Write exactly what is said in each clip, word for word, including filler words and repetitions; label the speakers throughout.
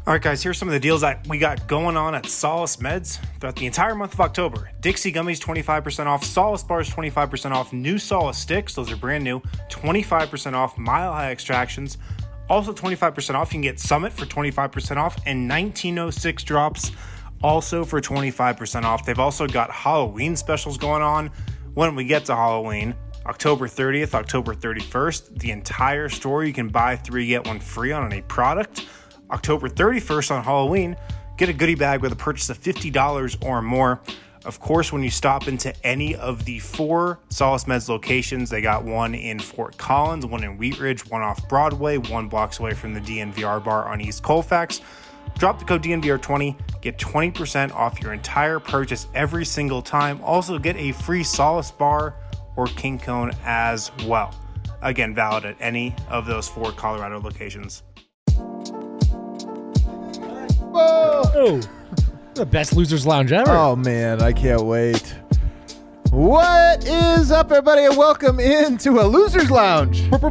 Speaker 1: All right, guys, here's some of the deals that we got going on at Solace Meds throughout the entire month of October. Dixie Gummies, twenty-five percent off. Solace Bars, twenty-five percent off. New Solace Sticks, those are brand new, twenty-five percent off. Mile High Extractions, also twenty-five percent off. You can get Summit for twenty-five percent off. And nineteen oh six Drops, also for twenty-five percent off. They've also got Halloween specials going on when we get to Halloween. October thirtieth, October thirty-first, the entire store, you can buy three, get one free on any product. October thirty-first on Halloween, get a goodie bag with a purchase of fifty dollars or more. Of course, when you stop into any of the four Solace Meds locations, they got one in Fort Collins, one in Wheat Ridge, one off Broadway, one blocks away from the D N V R bar on East Colfax. Drop the code D N V R twenty, get twenty percent off your entire purchase every single time. Also, get a free Solace bar or King Cone as well. Again, valid at any of those four Colorado locations.
Speaker 2: Whoa! The best Losers Lounge ever.
Speaker 3: Oh, man, I can't wait. What is up, everybody, and welcome into a Losers Lounge.
Speaker 2: Bones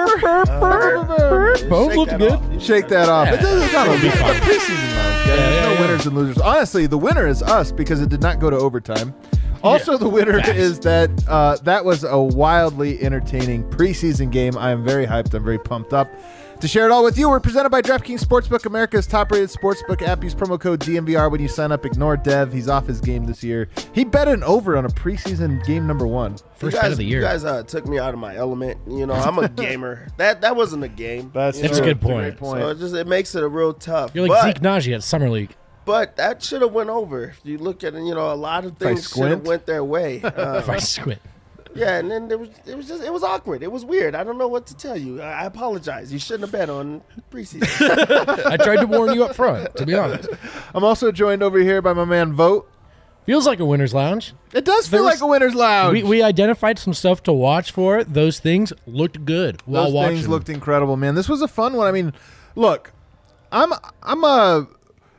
Speaker 2: looked good.
Speaker 3: Shake that off.
Speaker 2: Yeah.
Speaker 3: It doesn't, it's not a
Speaker 2: It'll be
Speaker 3: it's a
Speaker 2: fun.
Speaker 3: preseason lounge, guys.
Speaker 2: Yeah,
Speaker 3: There's
Speaker 2: yeah,
Speaker 3: no
Speaker 2: yeah.
Speaker 3: winners and losers. Honestly, the winner is us because it did not go to overtime. Also,
Speaker 2: Yeah.
Speaker 3: the winner
Speaker 2: Facts.
Speaker 3: is that uh, that was a wildly entertaining preseason game. I am very hyped. I'm very pumped up to share it all with you. We're presented by DraftKings Sportsbook, America's top-rated sportsbook app. Use promo code D N V R when you sign up. Ignore Dev. He's off his game this year. He bet an over on a preseason game number one.
Speaker 2: First
Speaker 4: you guys,
Speaker 2: bet of the year.
Speaker 4: You guys uh, took me out of my element. You know, I'm a gamer. that that wasn't a game.
Speaker 3: That's,
Speaker 4: you
Speaker 2: That's a
Speaker 4: know?
Speaker 2: good point.
Speaker 3: Great point.
Speaker 4: So it just it makes it a real tough.
Speaker 2: You're like
Speaker 4: but,
Speaker 2: Zeke Najee at Summer League.
Speaker 4: but that should have went over. If you look at it, you know, a lot of
Speaker 3: I
Speaker 4: things should have
Speaker 3: squint?
Speaker 4: went their way. Uh,
Speaker 2: If I squint.
Speaker 4: yeah, and then there was it was just it was awkward. It was weird. I don't know what to tell you. I, I apologize. You shouldn't have bet on preseason.
Speaker 2: I tried to warn you up front, to be honest.
Speaker 3: I'm also joined over here by my man Vote.
Speaker 2: Feels like a winner's lounge.
Speaker 3: It does feel
Speaker 2: There was-
Speaker 3: like a winner's lounge.
Speaker 2: We, we identified some stuff to watch for. Those things looked good while
Speaker 3: Those
Speaker 2: watching.
Speaker 3: things looked incredible, man. This was a fun one. I mean, look, I'm I'm a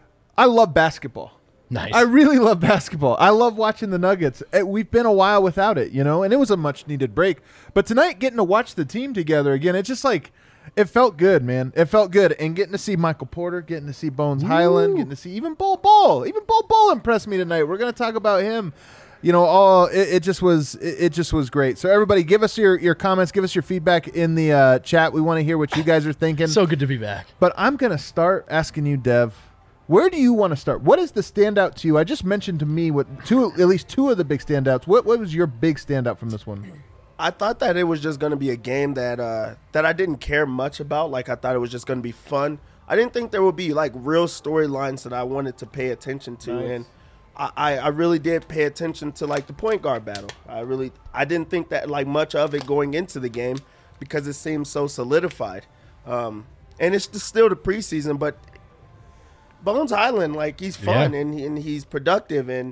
Speaker 3: I love basketball.
Speaker 2: Nice.
Speaker 3: I really love basketball. I love watching the Nuggets. Eh, We've been a while without it, you know, and it was a much needed break. But tonight, getting to watch the team together again, it just like it felt good, man. It felt good, and getting to see Michael Porter, getting to see Bones Highland, getting to see even Bol Bol, even Bol Bol impressed me tonight. We're gonna talk about him. You know, all it, it just was it, it just was great. So everybody, give us your your comments, give us your feedback in the uh, chat. We want to hear what you guys are thinking.
Speaker 2: so good to be back.
Speaker 3: But I'm going to start asking you, Dev, where do you want to start? What is the standout to you? I just mentioned to me what two, at least two of the big standouts. What what was your big standout from this one?
Speaker 4: I thought that it was just going to be a game that uh, that I didn't care much about. Like I thought it was just going to be fun. I didn't think there would be like real storylines that I wanted to pay attention to,
Speaker 3: Nice.
Speaker 4: and I, I, I really did pay attention to like the point guard battle. I really I didn't think that like much of it going into the game because it seemed so solidified. Um, and it's just still the preseason, but Bones Highland, like he's fun
Speaker 2: Yeah.
Speaker 4: and and he's productive and.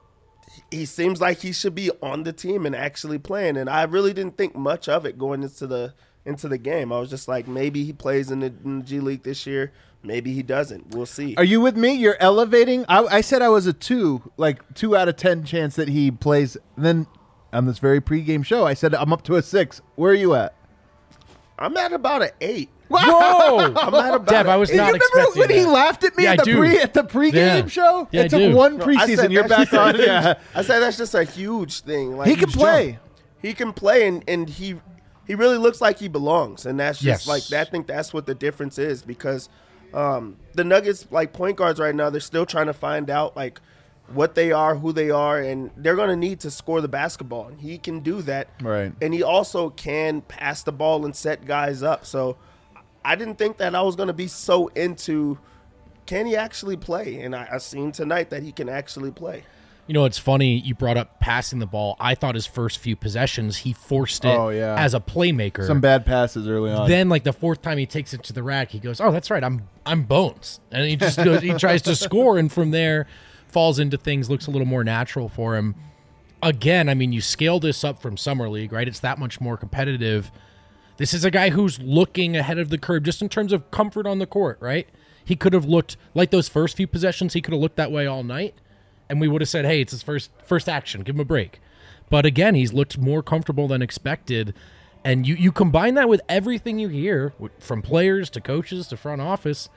Speaker 4: He seems like he should be on the team and actually playing, and I really didn't think much of it going into the into the game. I was just like, maybe he plays in the, in the G League this year, maybe he doesn't. We'll see.
Speaker 3: Are you with me? You're elevating. I, I said I was a two, like two out of ten chance that he plays. And then on this very pregame show, I said I'm up to a six. Where are you at?
Speaker 4: I'm at about an eight.
Speaker 2: Whoa!
Speaker 4: I'm at about
Speaker 2: Deb,
Speaker 4: an
Speaker 2: I was
Speaker 4: eight.
Speaker 2: not
Speaker 3: you remember
Speaker 2: expecting
Speaker 3: when he
Speaker 2: that.
Speaker 3: laughed at me
Speaker 2: Yeah,
Speaker 3: at
Speaker 2: I
Speaker 3: the
Speaker 2: do.
Speaker 3: pre at the pregame
Speaker 2: Yeah.
Speaker 3: show?
Speaker 2: Yeah, I
Speaker 3: it took
Speaker 2: do.
Speaker 3: one
Speaker 4: No, I
Speaker 3: preseason.
Speaker 4: said
Speaker 3: You're
Speaker 4: that's
Speaker 3: back
Speaker 4: just a
Speaker 3: on.
Speaker 4: huge-
Speaker 3: Yeah,
Speaker 4: I said that's just a huge thing. Like
Speaker 3: he can
Speaker 4: huge
Speaker 3: play.
Speaker 4: jump. He can play, and, and he he really looks like he belongs, and that's
Speaker 2: Yes.
Speaker 4: just like I think that's what the difference is because um, the Nuggets like point guards right now they're still trying to find out like what they are, who they are, and they're going to need to score the basketball, and he can do that.
Speaker 3: Right.
Speaker 4: And he also can pass the ball and set guys up. So I didn't think that I was going to be so into can he actually play, and I, I seen tonight that he can actually play.
Speaker 2: You know, it's funny you brought up passing the ball. I thought his first few possessions, he forced it
Speaker 3: Oh, yeah.
Speaker 2: as a playmaker.
Speaker 3: Some bad passes early on.
Speaker 2: Then, like the fourth time he takes it to the rack, he goes, "Oh, that's right, I'm I'm Bones," and he just goes, he tries to score, and from there falls into things, looks a little more natural for him. Again, I mean, you scale this up from Summer League, right? It's that much more competitive. This is a guy who's looking ahead of the curve just in terms of comfort on the court, right? He could have looked like those first few possessions. He could have looked that way all night, and we would have said, "Hey, it's his first first action. Give him a break." But again, he's looked more comfortable than expected. And you, you combine that with everything you hear from players to coaches to front office,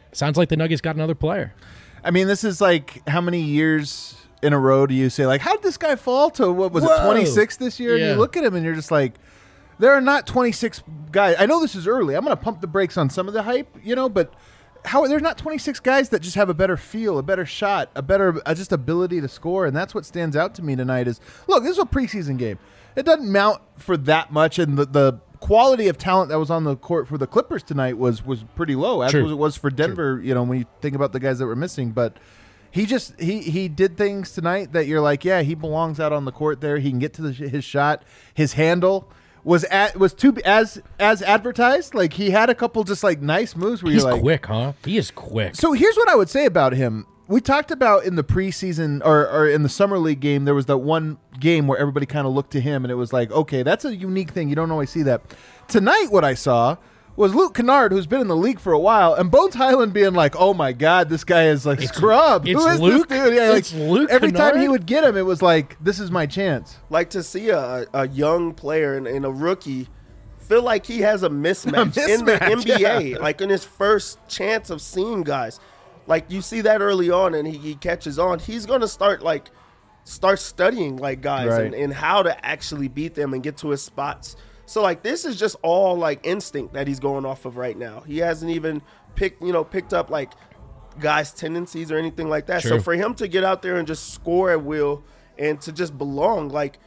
Speaker 2: sounds like the Nuggets got another player.
Speaker 3: I mean, this is like how many years in a row do you say, like, how did this guy fall to, what was
Speaker 2: Whoa.
Speaker 3: it, twenty-six this year?
Speaker 2: Yeah.
Speaker 3: And you look at him and you're just like, there are not twenty-six guys. I know this is early. I'm going to pump the brakes on some of the hype, you know, but how there's not twenty-six guys that just have a better feel, a better shot, a better uh, just ability to score. And that's what stands out to me tonight is, look, this is a preseason game. It doesn't mount for that much. And the, the quality of talent that was on the court for the Clippers tonight was was pretty low, as
Speaker 2: True.
Speaker 3: was it was for Denver, True. you know, when you think about the guys that were missing. But he just he he did things tonight that you're like, yeah, he belongs out on the court there. He can get to the, his shot. His handle was at was too as as advertised. Like, he had a couple just like nice moves where
Speaker 2: He's
Speaker 3: you're like,
Speaker 2: quick, huh? He is quick.
Speaker 3: So here's what I would say about him. We talked about in the preseason or, or in the summer league game, there was that one game where everybody kind of looked to him and it was like, okay, that's a unique thing. You don't always see that. Tonight, what I saw was Luke Kennard, who's been in the league for a while, and Bones Highland being like, oh my God, this guy is like
Speaker 2: It's-
Speaker 3: scrub.
Speaker 2: it's
Speaker 3: Who is
Speaker 2: Luke?
Speaker 3: this dude? Yeah,
Speaker 2: It's
Speaker 3: like,
Speaker 2: Luke
Speaker 3: every time he
Speaker 2: Kennard?
Speaker 3: would get him, it was like, this is my chance.
Speaker 4: Like, to see a, a young player and, and a rookie feel like he has a mismatch,
Speaker 3: A
Speaker 4: in the
Speaker 3: mismatch,
Speaker 4: N B A,
Speaker 3: yeah.
Speaker 4: like in his first chance of seeing guys. Like, you see that early on and he, he catches on. He's going to start, like, start studying, like, guys
Speaker 3: Right.
Speaker 4: and, and how to actually beat them and get to his spots. So, like, this is just all, like, instinct that he's going off of right now. He hasn't even picked, you know, picked up, like, guys' tendencies or anything like that.
Speaker 2: True.
Speaker 4: So, for him to get out there and just score at will and to just belong, like,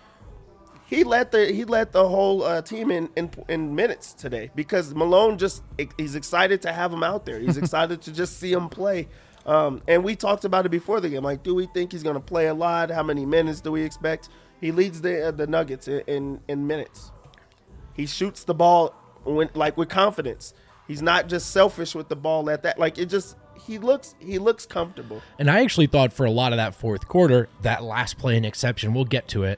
Speaker 4: he led the he led the whole uh, team in, in in minutes today because Malone just he's excited to have him out there. He's excited to just see him play. Um, and we talked about it before the game. Like, do we think he's going to play a lot? How many minutes do we expect? He leads the uh, the Nuggets in, in in minutes. He shoots the ball when, like, with confidence. He's not just selfish with the ball at that. Like, it just he looks he looks comfortable.
Speaker 2: And I actually thought for a lot of that fourth quarter, that last play an exception. We'll get to it.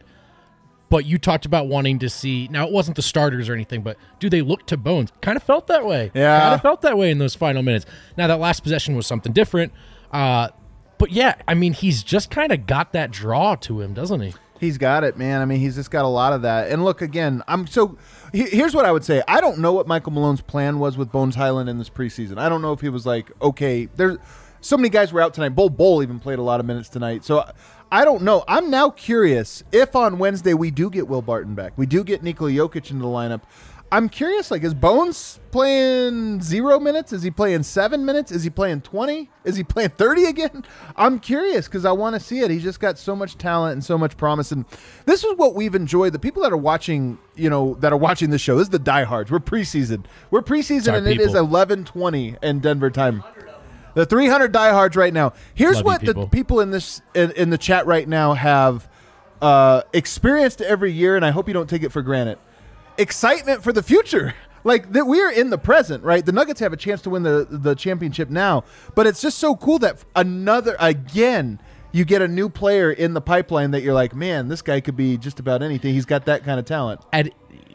Speaker 2: But you talked about wanting to see, now it wasn't the starters or anything, but do they look to Bones? Kind of felt that way.
Speaker 3: Yeah.
Speaker 2: Kind of felt that way in those final minutes. Now that last possession was something different. Uh, but yeah, I mean, he's just kind of got that draw to him, doesn't he?
Speaker 3: He's got it, man. I mean, he's just got a lot of that. And look, again, I'm so he- here's what I would say. I don't know what Michael Malone's plan was with Bones Highland in this preseason. I don't know if he was like, okay, there's so many guys were out tonight. Bull Bull even played a lot of minutes tonight. So I don't know. I'm now curious if on Wednesday we do get Will Barton back. We do get Nikola Jokic into the lineup. I'm curious, like, is Bones playing zero minutes? Is he playing seven minutes? Is he playing twenty? Is he playing thirty again? I'm curious because I want to see it. He's just got so much talent and so much promise. And this is what we've enjoyed. The people that are watching, you know, that are watching this show, this is the diehards. We're preseason. We're preseason,
Speaker 2: our
Speaker 3: and it is
Speaker 2: people.
Speaker 3: eleven twenty in Denver time. The three hundred diehards right now. Here's
Speaker 2: Love you,
Speaker 3: what
Speaker 2: people.
Speaker 3: the people in this in, in the chat right now have uh, experienced every year, and I hope you don't take it for granted. Excitement for the future. Like, that we're in the present, right? The Nuggets have a chance to win the, the championship now, but it's just so cool that another, again, you get a new player in the pipeline that you're like, man, this guy could be just about anything. He's got that kind of talent.
Speaker 2: And,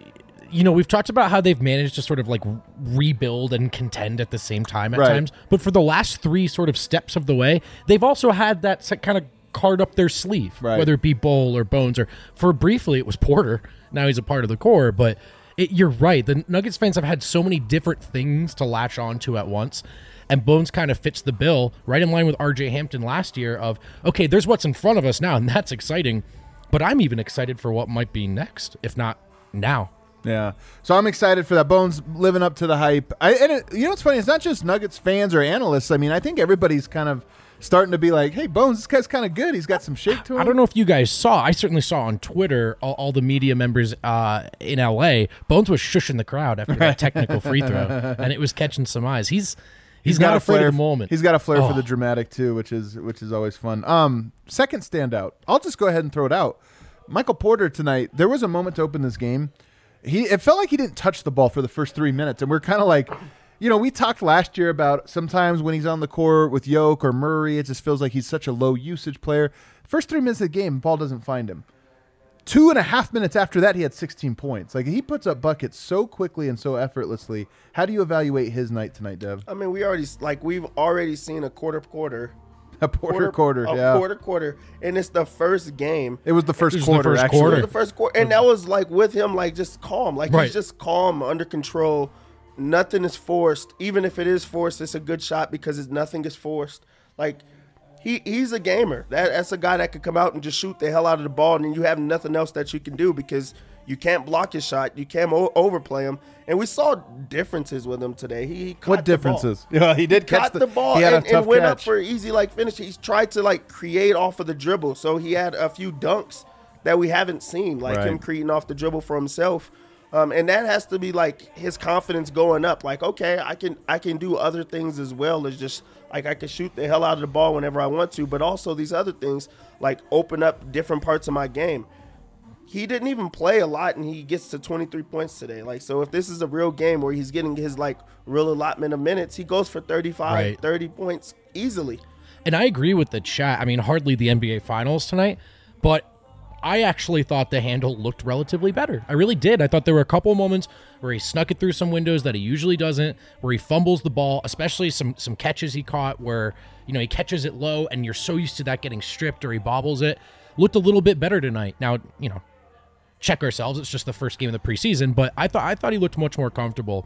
Speaker 2: you know, we've talked about how they've managed to sort of like rebuild and contend at the same time at
Speaker 3: Right.
Speaker 2: times. But for the last three sort of steps of the way, they've also had that se- kind of card up their sleeve,
Speaker 3: Right.
Speaker 2: whether it be Bowl or Bones, or for briefly it was Porter. Now he's a part of the core. But it, you're right. The Nuggets fans have had so many different things to latch on to at once. And Bones kind of fits the bill right in line with R J Hampton last year of, okay, there's what's in front of us now, and that's exciting. But I'm even excited for what might be next, if not now.
Speaker 3: Yeah. So I'm excited for that. Bones living up to the hype. I, and it, you know what's funny? It's not just Nuggets fans or analysts. I mean, I think everybody's kind of starting to be like, hey, Bones, this guy's kind of good. He's got some shake to him.
Speaker 2: I don't know if you guys saw. I certainly saw on Twitter all, all the media members uh, in L A. Bones was shushing the crowd after that technical free throw, and it was catching some eyes. He's he's, not afraid
Speaker 3: flair
Speaker 2: of the moment.
Speaker 3: He's got a flair
Speaker 2: Oh.
Speaker 3: for the dramatic too, which is which is always fun. Um, second standout. I'll just go ahead and throw it out. Michael Porter tonight. There was a moment to open this game. He it felt like he didn't touch the ball for the first three minutes, and we're kind of like, you know, we talked last year about sometimes when he's on the court with Yoke or Murray, it just feels like he's such a low usage player. First three minutes of the game, ball doesn't find him. Two and a half minutes after that, he had sixteen points. Like, he puts up buckets so quickly and so effortlessly. How do you evaluate his night tonight, Dev?
Speaker 4: I mean, we already like we've already seen a quarter quarter.
Speaker 3: A Porter quarter,
Speaker 4: a
Speaker 3: yeah.
Speaker 4: quarter quarter, and it's the first game.
Speaker 3: It was the first
Speaker 2: It was the
Speaker 3: quarter,
Speaker 2: first
Speaker 3: actually.
Speaker 2: quarter.
Speaker 4: It was the first quarter, and that was like with him, like just calm, like
Speaker 2: Right.
Speaker 4: he's just calm, under control, nothing is forced. Even if it is forced, it's a good shot because it's, nothing is forced. Like, he he's a gamer. That That's a guy that could come out and just shoot the hell out of the ball, and then you have nothing else that you can do because you can't block his shot. You can't o- overplay him. And we saw differences with him today. He, he caught
Speaker 3: What
Speaker 4: the
Speaker 3: differences?
Speaker 4: ball.
Speaker 3: Yeah, he did catch
Speaker 4: Caught
Speaker 3: the,
Speaker 4: the ball
Speaker 3: He had
Speaker 4: and,
Speaker 3: a tough
Speaker 4: and went
Speaker 3: catch.
Speaker 4: up for an easy like finish. He's tried to like create off of the dribble. So he had a few dunks that we haven't seen, like
Speaker 3: Right.
Speaker 4: him creating off the dribble for himself. Um, and that has to be like his confidence going up. Like, okay, I can I can do other things as well as just like I can shoot the hell out of the ball whenever I want to, but also these other things like open up different parts of my game. He didn't even play a lot, and he gets to twenty-three points today. Like, so if this is a real game where he's getting his like real allotment of minutes, he goes for thirty-five,
Speaker 2: Right.
Speaker 4: thirty points easily.
Speaker 2: And I agree with the chat. I mean, hardly the N B A Finals tonight, but I actually thought the handle looked relatively better. I really did. I thought there were a couple of moments where he snuck it through some windows that he usually doesn't, where he fumbles the ball, especially some some catches he caught where, you know, he catches it low and you're so used to that getting stripped or he bobbles it. Looked a little bit better tonight. Now, you know, check ourselves. It's just the first game of the preseason, but I thought I thought he looked much more comfortable.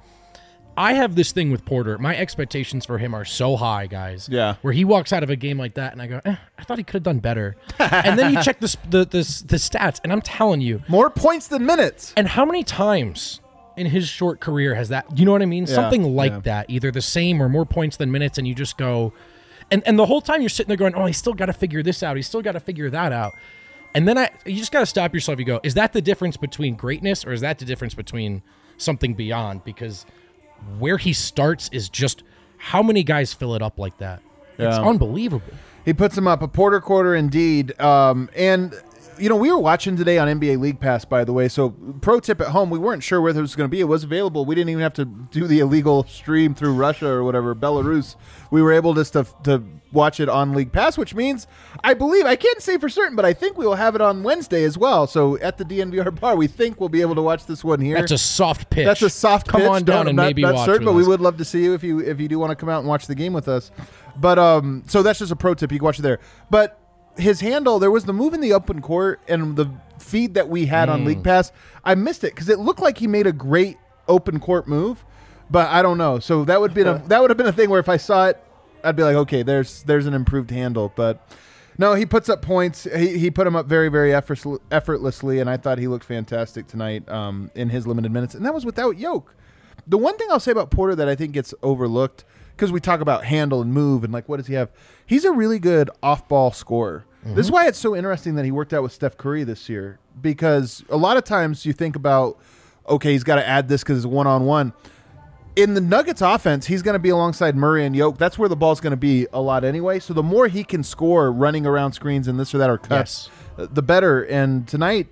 Speaker 2: I have this thing with Porter. My expectations for him are so high, guys.
Speaker 3: Yeah.
Speaker 2: Where he walks out of a game like that, and I go, eh, I thought he could have done better. And then you check the, the the the stats, and I'm telling you,
Speaker 3: More points than minutes.
Speaker 2: and how many times in his short career has that? You know what I mean?
Speaker 3: Yeah,
Speaker 2: Something like
Speaker 3: yeah.
Speaker 2: that, either the same or more points than minutes, and you just go, and and the whole time you're sitting there going, oh, he's still got to figure this out. He's still got to figure that out. And then I, you just got to stop yourself. You go, is that the difference between greatness, or is that the difference between something beyond? Because where he starts is just how many guys fill it up like that. It's
Speaker 3: Yeah.
Speaker 2: unbelievable.
Speaker 3: He puts him up a Porter quarter indeed. Um, and, you know, we were watching today on N B A League Pass, by the way. So, pro tip at home, we weren't sure whether it was going to be. It was available. We didn't even have to do the illegal stream through Russia or whatever, Belarus. We were able just to, to watch it on League Pass, which means, I believe, I can't say for certain, but I think we will have it on Wednesday as well. So, at the D N V R bar, we think we'll be able to watch this one here.
Speaker 2: That's a soft pitch.
Speaker 3: That's a soft
Speaker 2: Come
Speaker 3: pitch.
Speaker 2: on down
Speaker 3: Don't-
Speaker 2: and
Speaker 3: not,
Speaker 2: maybe
Speaker 3: not
Speaker 2: watch
Speaker 3: certain,
Speaker 2: with
Speaker 3: but we
Speaker 2: us.
Speaker 3: would love to see you if you if you do want to come out and watch the game with us. But um, so that's just a pro tip. You can watch it there. But his handle, there was the move in the open court and the feed that we had
Speaker 2: Mm.
Speaker 3: on League Pass. I missed it because it looked like he made a great open court move, but I don't know. So that would be a that would have been a thing where if I saw it, I'd be like, okay, there's there's an improved handle. But no, he puts up points. He he put him up very very effort, effortlessly, and I thought he looked fantastic tonight um, in his limited minutes, and that was without Yoke. The one thing I'll say about Porter that I think gets overlooked, because we talk about handle and move and like what does he have, he's a really good off-ball scorer. Mm-hmm. This is why it's so interesting that he worked out with Steph Curry this year, because a lot of times you think about, okay, he's got to add this because it's one-on-one. In the Nuggets offense, he's going to be alongside Murray and Yoke. That's where the ball's going to be a lot anyway. So the more he can score running around screens and this or that or cuts,
Speaker 2: Yes.
Speaker 3: the better. And tonight,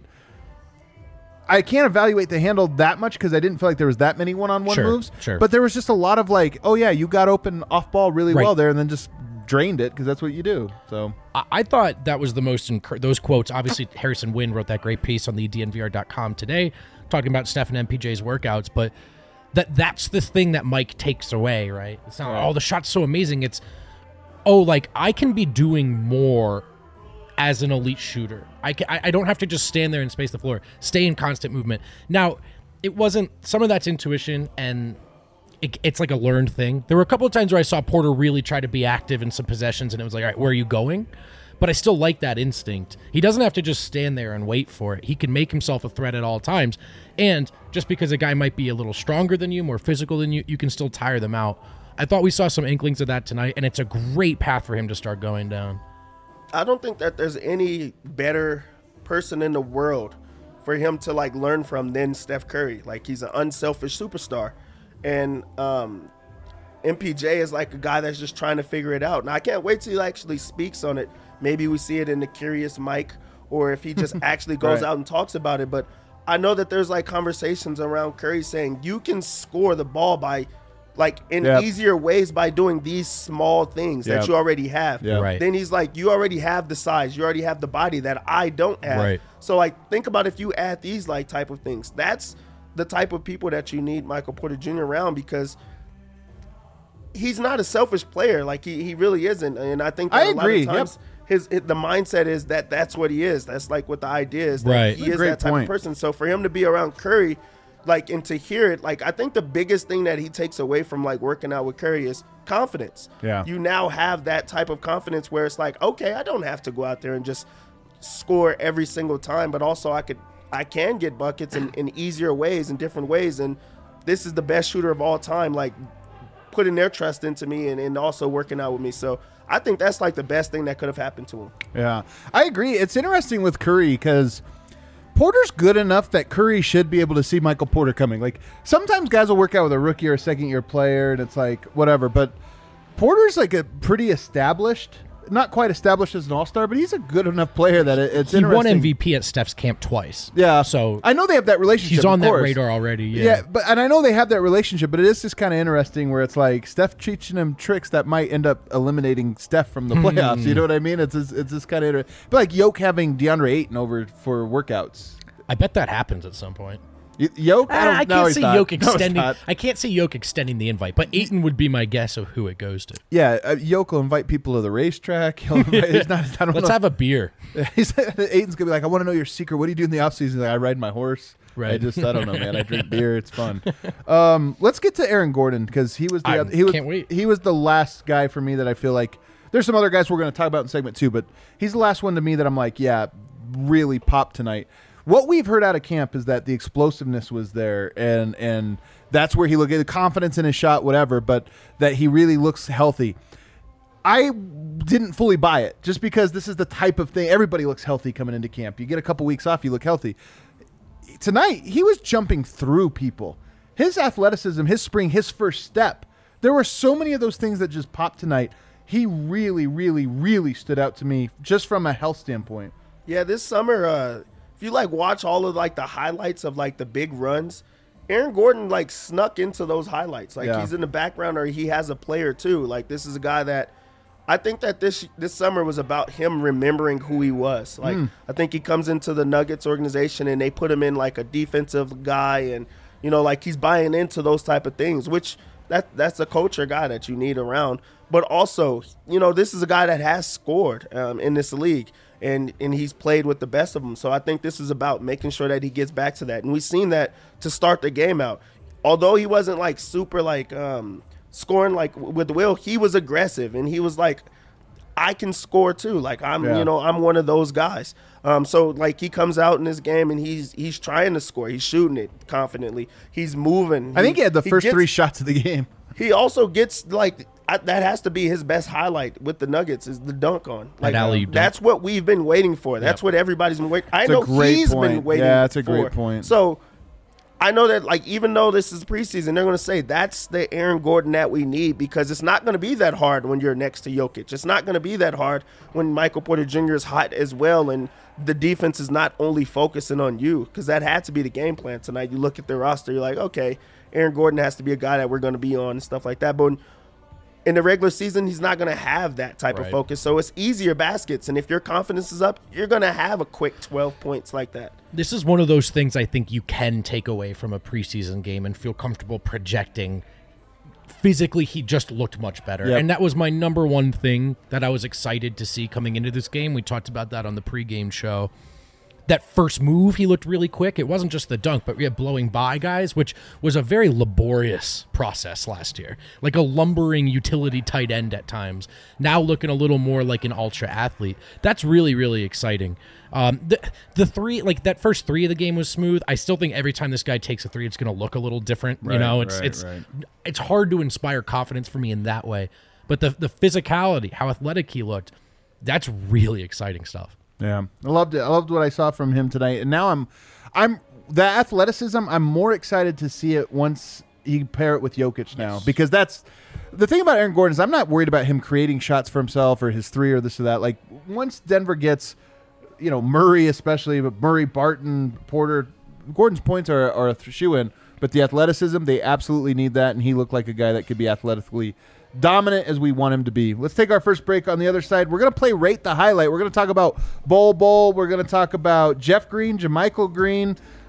Speaker 3: I can't evaluate the handle that much because I didn't feel like there was that many one-on-one
Speaker 2: Sure,
Speaker 3: moves.
Speaker 2: sure.
Speaker 3: But there was just a lot of like, oh yeah, you got open off ball really
Speaker 2: Right.
Speaker 3: well there, and then just drained it because that's what you do. So
Speaker 2: I, I thought that was the most encour- those quotes. Obviously, Harrison Wynn wrote that great piece on the D N V R dot com today, talking about Steph and M P J's workouts. But that that's the thing that Mike takes away, right? It's not oh the shot's so amazing. It's oh like I can be doing more as an elite shooter. I, can, I I don't have to just stand there and space the floor. Stay in constant movement. Now, it wasn't some of that's intuition and. It, it's like a learned thing. There were a couple of times where I saw Porter really try to be active in some possessions, and it was like, all right, where are you going? But I still like that instinct. He doesn't have to just stand there and wait for it. He can make himself a threat at all times. And just because a guy might be a little stronger than you, more physical than you, you can still tire them out. I thought we saw some inklings of that tonight, and it's a great path for him to start going down.
Speaker 4: I don't think that there's any better person in the world for him to like learn from than Steph Curry. Like, he's an unselfish superstar. And um, M P J is like a guy that's just trying to figure it out. Now, I can't wait till he actually speaks on it. Maybe we see it in the Curious Mike, or if he just actually goes
Speaker 3: Right.
Speaker 4: out and talks about it. But I know that there's like conversations around Curry saying you can score the ball by like in
Speaker 3: Yep.
Speaker 4: easier ways by doing these small things
Speaker 3: Yep.
Speaker 4: that you already have.
Speaker 3: Yeah.
Speaker 2: Right.
Speaker 4: Then he's like, you already have the size, you already have the body that I don't have.
Speaker 2: Right.
Speaker 4: So like, think about if you add these like type of things. That's the type of people that you need Michael Porter Junior around, because he's not a selfish player. Like he, he really isn't. And I think that
Speaker 3: I
Speaker 4: a lot
Speaker 3: agree.
Speaker 4: of times his, his the mindset is that that's what he is. That's like what the idea is. That
Speaker 2: Right.
Speaker 4: He
Speaker 3: That's a
Speaker 4: is
Speaker 3: great
Speaker 4: that type
Speaker 3: point.
Speaker 4: of person. So for him to be around Curry, like, and to hear it, like, I think the biggest thing that he takes away from like working out with Curry is confidence.
Speaker 3: Yeah.
Speaker 4: You now have that type of confidence where it's like, okay, I don't have to go out there and just score every single time, but also I could, I can get buckets in, in easier ways, in different ways. And this is the best shooter of all time, like putting their trust into me and, and also working out with me. So I think that's like the best thing that could have happened to him.
Speaker 3: Yeah, I agree. It's interesting with Curry because Porter's good enough that Curry should be able to see Michael Porter coming. Like, sometimes guys will work out with a rookie or a second year player and it's like whatever, but Porter's like a pretty established, not quite established as an all-star, but he's a good enough player that it, it's
Speaker 2: he
Speaker 3: interesting.
Speaker 2: won M V P at Steph's camp twice.
Speaker 3: Yeah,
Speaker 2: so
Speaker 3: I know they have that relationship.
Speaker 2: he's on
Speaker 3: of
Speaker 2: that
Speaker 3: course.
Speaker 2: radar already. Yeah.
Speaker 3: Yeah, but and I know they have that relationship, but it is just kind of interesting where it's like Steph teaching him tricks that might end up eliminating Steph from the playoffs. You know what I mean? It's just, it's just kind of interesting. But like Yoke having DeAndre Ayton over for workouts.
Speaker 2: I bet that happens at some point.
Speaker 3: Y- Yoke, I,
Speaker 2: I,
Speaker 3: don't,
Speaker 2: I
Speaker 3: no,
Speaker 2: can't
Speaker 3: he's
Speaker 2: see
Speaker 3: not.
Speaker 2: Yoke
Speaker 3: No, he's
Speaker 2: extending.
Speaker 3: not.
Speaker 2: I can't see Yoke extending the invite, but Ayton would be my guess of who it goes to.
Speaker 3: Yeah, uh, Yoke will invite people to the racetrack. He'll invite, he's not, I don't
Speaker 2: Let's
Speaker 3: know.
Speaker 2: have a beer.
Speaker 3: He's, Aiton's gonna be like, I want to know your secret. What do you do in the off season? Like, I ride my horse.
Speaker 2: Right.
Speaker 3: I just, I don't know, man. I drink beer. It's fun. Um, let's get to Aaron Gordon because he was the
Speaker 2: I
Speaker 3: other, he was
Speaker 2: can't wait.
Speaker 3: he was the last guy for me that I feel like there's some other guys we're going to talk about in segment two, but he's the last one to me that I'm like, yeah, really popped tonight. What we've heard out of camp is that the explosiveness was there, and and that's where he looked at the confidence in his shot, whatever, but that he really looks healthy. I didn't fully buy it just because this is the type of thing. Everybody looks healthy coming into camp. You get a couple weeks off, you look healthy. Tonight, he was jumping through people. His athleticism, his spring, his first step. There were so many of those things that just popped tonight. He really, really, really stood out to me just from a health standpoint.
Speaker 4: Yeah, this summer, uh, if you like watch all of like the highlights of like the big runs, Aaron Gordon like snuck into those highlights. Like
Speaker 3: Yeah.
Speaker 4: he's in the background or he has a player too. Like this is a guy that I think that this this summer was about him remembering who he was. Like I think he comes into the Nuggets organization and they put him in like a defensive guy, and you know like he's buying into those type of things, which that that's a culture guy that you need around. But also, you know, this is a guy that has scored um, in this league. And and he's played with the best of them. So I think this is about making sure that he gets back to that. And we've seen that to start the game out. Although he wasn't like super like um, scoring like with Will, he was aggressive and he was like, I can score too. Like I'm,
Speaker 3: Yeah.
Speaker 4: you know, I'm one of those guys. Um, so like he comes out in this game and he's he's trying to score. He's shooting it confidently. He's moving.
Speaker 3: I think he had the first
Speaker 4: gets-
Speaker 3: three shots of the game.
Speaker 4: He also gets like I, that has to be his best highlight with the Nuggets is the dunk on. Like
Speaker 2: alley-oop dunk.
Speaker 4: that's what we've been waiting for. That's
Speaker 2: Yep.
Speaker 4: what everybody's been waiting. I
Speaker 3: It's a
Speaker 4: know
Speaker 3: great
Speaker 4: he's
Speaker 3: point.
Speaker 4: been waiting.
Speaker 3: Yeah, it's a
Speaker 4: for.
Speaker 3: great point.
Speaker 4: So I know that like even though this is preseason, they're going to say that's the Aaron Gordon that we need because it's not going to be that hard when you're next to Jokic. It's not going to be that hard when Michael Porter Junior is hot as well and the defense is not only focusing on you because that had to be the game plan tonight. You look at the roster, you're like, okay, Aaron Gordon has to be a guy that we're going to be on and stuff like that. But in the regular season, he's not going to have that type
Speaker 2: Right.
Speaker 4: of focus. So it's easier baskets. And if your confidence is up, you're going to have a quick twelve points like that.
Speaker 2: This is one of those things I think you can take away from a preseason game and feel comfortable projecting. Physically, he just looked much better.
Speaker 3: Yep.
Speaker 2: And that was my number one thing that I was excited to see coming into this game. We talked about that on the pregame show. That first move, he looked really quick. It wasn't just the dunk, but we had blowing by guys, which was a very laborious process last year. Like a lumbering utility tight end at times. Now looking a little more like an ultra athlete. That's really, really exciting. Um, the, the three, like that first three of the game was smooth. I still think every time this guy takes a three, it's going to look a little different. You
Speaker 3: Right,
Speaker 2: know, it's
Speaker 3: right,
Speaker 2: it's
Speaker 3: right.
Speaker 2: it's hard to inspire confidence for me in that way. But the the physicality, how athletic he looked, that's really exciting stuff.
Speaker 3: Yeah, I loved it. I loved what I saw from him tonight, and now I'm, I'm the athleticism. I'm more excited to see it once you pair it with Jokic now, because that's the thing about Aaron Gordon is I'm not worried about him creating shots for himself or his three or this or that. Like once Denver gets, you know, Murray especially, but Murray, Barton, Porter, Gordon's points are are a shoe in, but the athleticism they absolutely need that, and he looked like a guy that could be athletically dominant as we want him to be. Let's take our first break. On the other side, we're going to play Rate the Highlight. We're going to talk about Bol Bol. We're going to talk about Jeff Green, JaMychal Green.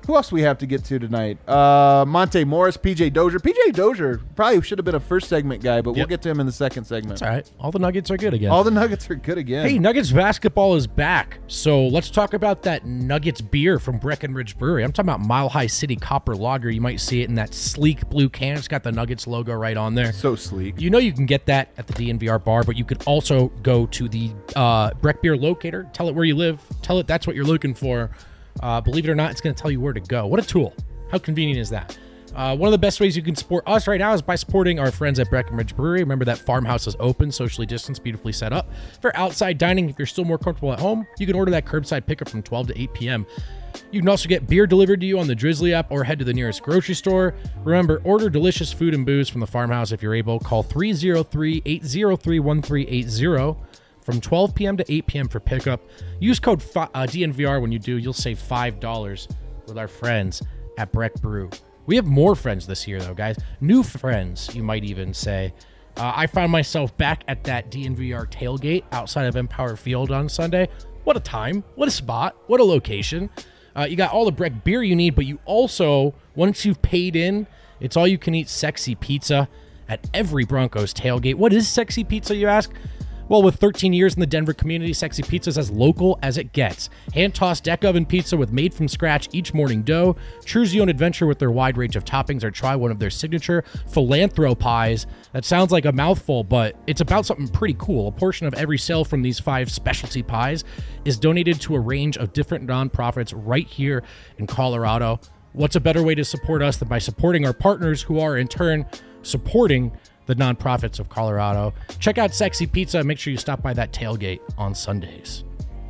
Speaker 3: Who else we have to get to tonight? Uh, Monte Morris, P J Dozier. P J Dozier probably should have been a first segment guy, but we'll
Speaker 2: Yep.
Speaker 3: get to him in the second segment.
Speaker 2: That's all right. All the Nuggets are good again.
Speaker 3: All the Nuggets are good again.
Speaker 2: Hey, Nuggets basketball is back. So let's talk about that Nuggets beer from Breckenridge Brewery. I'm talking about Mile High City Copper Lager. You might see it in that sleek blue can. It's got the Nuggets logo right on there.
Speaker 3: So sleek.
Speaker 2: You know you can get that at the D N V R bar, but you could also go to the uh, Breck Beer locator, tell it where you live, tell it that's what you're looking for. Uh, believe it or not, it's going to tell you where to go. What a tool. How convenient is that? Uh, one of the best ways you can support us right now is by supporting our friends at Breckenridge Brewery. Remember that farmhouse is open, socially distanced, beautifully set up. For outside dining, if you're still more comfortable at home, you can order that curbside pickup from twelve to eight p.m. You can also get beer delivered to you on the Drizzly app or head to the nearest grocery store. Remember, order delicious food and booze from the farmhouse if you're able. Call three oh three, eight oh three, one three eight oh from twelve p.m. to eight p.m. for pickup. Use code fi- uh, D N V R when you do. You'll save five dollars with our friends at Breck Brew. We have more friends this year, though, guys. New friends, you might even say. Uh, I found myself back at that D N V R tailgate outside of Empower Field on Sunday. What a time. What a spot. What a location. Uh, you got all the Breck beer you need, but you also, once you've paid in, it's all you can eat sexy pizza at every Broncos tailgate. What is sexy pizza, you ask? Well, with thirteen years in the Denver community, Sexy Pizza is as local as it gets. Hand-tossed deck oven pizza with made-from-scratch each morning dough. Choose your own adventure with their wide range of toppings or try one of their signature philanthro pies. That sounds like a mouthful, but it's about something pretty cool. A portion of every sale from these five specialty pies is donated to a range of different nonprofits right here in Colorado. What's a better way to support us than by supporting our partners who are, in turn, supporting the nonprofits of Colorado? Check out Sexy Pizza and make sure you stop by that tailgate on Sundays.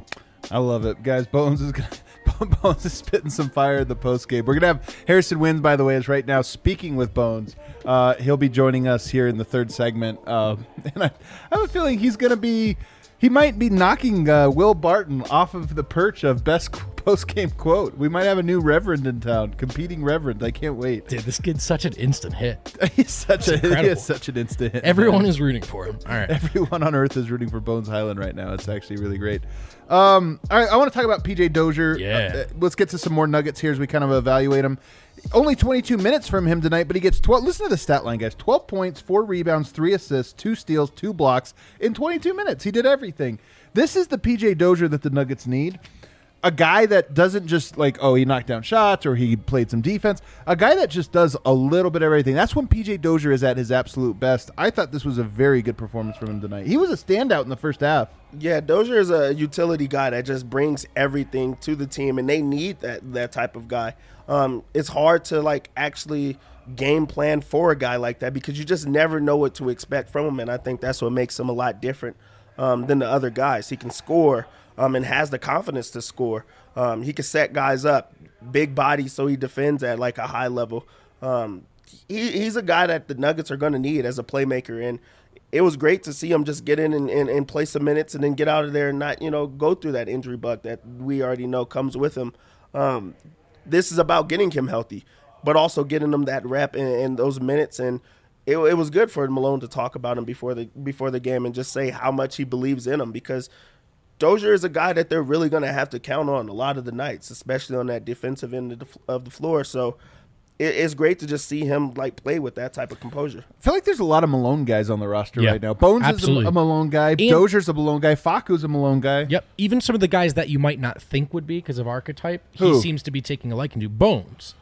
Speaker 3: I love it, guys. Bones is gonna, Bones is spitting some fire in the post game. We're gonna have Harrison Wins, by the way, is right now speaking with Bones. Uh, he'll be joining us here in the third segment, um, and I, I have a feeling he's gonna be. He might be knocking uh, Will Barton off of the perch of best post-game quote. We might have a new reverend in town, competing reverend. I can't wait.
Speaker 2: Dude, this kid's such an instant hit.
Speaker 3: He's such a
Speaker 2: incredible.
Speaker 3: he is such an instant hit.
Speaker 2: Everyone
Speaker 3: man.
Speaker 2: is rooting for him. All right.
Speaker 3: Everyone on earth is rooting for Bones Highland right now. It's actually really great. Um, all right, I want to talk about P J Dozier.
Speaker 2: Yeah.
Speaker 3: Uh, let's get to some more nuggets here as we kind of evaluate him. Only twenty-two minutes from him tonight, but he gets twelve. Listen to the stat line, guys. twelve points, four rebounds, three assists, two steals, two blocks in twenty-two minutes. He did everything. This is the P J Dozier that the Nuggets need. A guy that doesn't just like, oh, he knocked down shots or he played some defense. A guy that just does a little bit of everything. That's when P J Dozier is at his absolute best. I thought this was a very good performance from him tonight. He was a standout in the first half.
Speaker 4: Yeah, Dozier is a utility guy that just brings everything to the team, and they need that that type of guy. Um, it's hard to like actually game plan for a guy like that because you just never know what to expect from him, and I think that's what makes him a lot different um, than the other guys. He can score um, and has the confidence to score. Um, he can set guys up, big body, so he defends at like a high level. Um, he, he's a guy that the Nuggets are going to need as a playmaker, and it was great to see him just get in and, and, and play some minutes and then get out of there and not, you know, go through that injury bug that we already know comes with him. Um, this is about getting him healthy, but also getting him that rep and, and those minutes. And it, it was good for Malone to talk about him before the before the game and just say how much he believes in him, because Dozier is a guy that they're really going to have to count on a lot of the nights, especially on that defensive end of the, of the floor. So it, it's great to just see him like play with that type of composure.
Speaker 3: I feel like there's a lot of Malone guys on the roster
Speaker 2: Yeah,
Speaker 3: right now. Bones
Speaker 2: absolutely.
Speaker 3: is a, a Malone guy.
Speaker 2: And-
Speaker 3: Dozier's a Malone guy. Facu's a Malone guy.
Speaker 2: Yep. Even some of the guys that you might not think would be because of archetype, he
Speaker 3: Who?
Speaker 2: seems to be taking a liking to. Bones.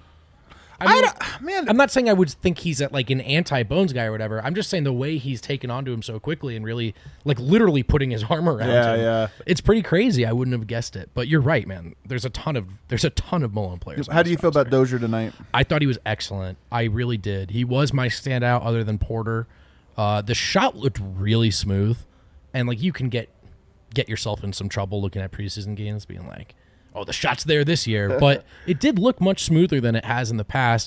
Speaker 2: I
Speaker 3: I
Speaker 2: mean,
Speaker 3: don't- man,
Speaker 2: I'm not saying I would think he's at like an anti-Bones guy or whatever. I'm just saying the way he's taken onto him so quickly and really, like, literally putting his arm around
Speaker 3: Yeah,
Speaker 2: him.
Speaker 3: yeah.
Speaker 2: It's pretty crazy. I wouldn't have guessed it, but you're right, man. There's a ton of there's a ton of Malone players. on
Speaker 3: How do
Speaker 2: this
Speaker 3: you feel about
Speaker 2: roster.
Speaker 3: Dozier tonight?
Speaker 2: I thought he was excellent. I really did. He was my standout other than Porter. Uh, the shot looked really smooth, and like you can get get yourself in some trouble looking at preseason games, being like, "Oh, the shot's there this year," but it did look much smoother than it has in the past.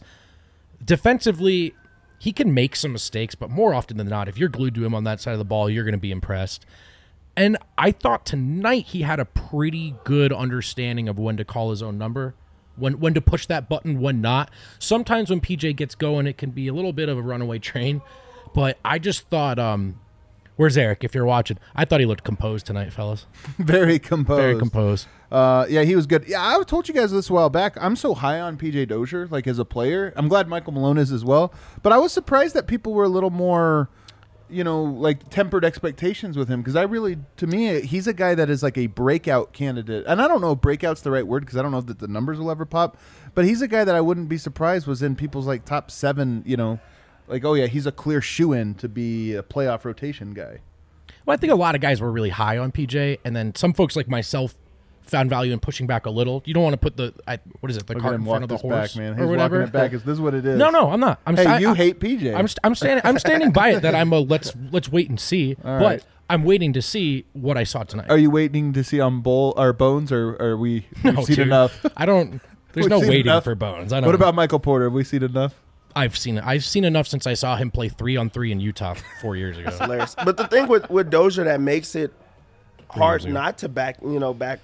Speaker 2: Defensively, he can make some mistakes, but more often than not, if you're glued to him on that side of the ball, you're going to be impressed. And I thought tonight he had a pretty good understanding of when to call his own number, when when to push that button, when not. Sometimes when P J gets going, it can be a little bit of a runaway train. But I just thought um, Where's Eric? If you're watching, I thought he looked composed tonight, fellas.
Speaker 3: Very composed.
Speaker 2: Very composed.
Speaker 3: Uh, yeah, he was good. Yeah, I told you guys this a while back. I'm so high on P J Dozier, like as a player. I'm glad Michael Malone is as well. But I was surprised that people were a little more, you know, like tempered expectations with him, because I really, to me, he's a guy that is like a breakout candidate. And I don't know if breakout's the right word, because I don't know that the numbers will ever pop. But he's a guy that I wouldn't be surprised was in people's like top seven, you know, like, oh yeah, he's a clear shoo-in to be a playoff rotation guy.
Speaker 2: Well, I think a lot of guys were really high on P J, and then some folks like myself found value in pushing back a little. You don't want to put the I, what is it, the
Speaker 3: Look
Speaker 2: cart
Speaker 3: at him
Speaker 2: in front of the
Speaker 3: walk
Speaker 2: horse
Speaker 3: this back, man.
Speaker 2: or
Speaker 3: He's
Speaker 2: whatever.
Speaker 3: walking it back. Is this what it is?
Speaker 2: No, no, I'm not. I'm
Speaker 3: Hey,
Speaker 2: sta-
Speaker 3: you
Speaker 2: I,
Speaker 3: hate P J.
Speaker 2: I'm st- I'm standing I'm standing by it that I'm a let's let's wait and see.
Speaker 3: All
Speaker 2: but
Speaker 3: right.
Speaker 2: I'm waiting to see what I saw tonight.
Speaker 3: Are you waiting to see on Bull or Bones, or are we we've
Speaker 2: No,
Speaker 3: seen
Speaker 2: dude.
Speaker 3: enough?
Speaker 2: I don't. There's
Speaker 3: We've
Speaker 2: no
Speaker 3: seen
Speaker 2: waiting
Speaker 3: enough.
Speaker 2: for Bones. I don't.
Speaker 3: What about Michael Porter? Have we seen enough?
Speaker 2: I've seen it. I've seen enough since I saw him play three on three in Utah four years ago.
Speaker 4: Hilarious. But the thing with, with Dozier that makes it hard
Speaker 2: years ago.
Speaker 4: not to back, you know, back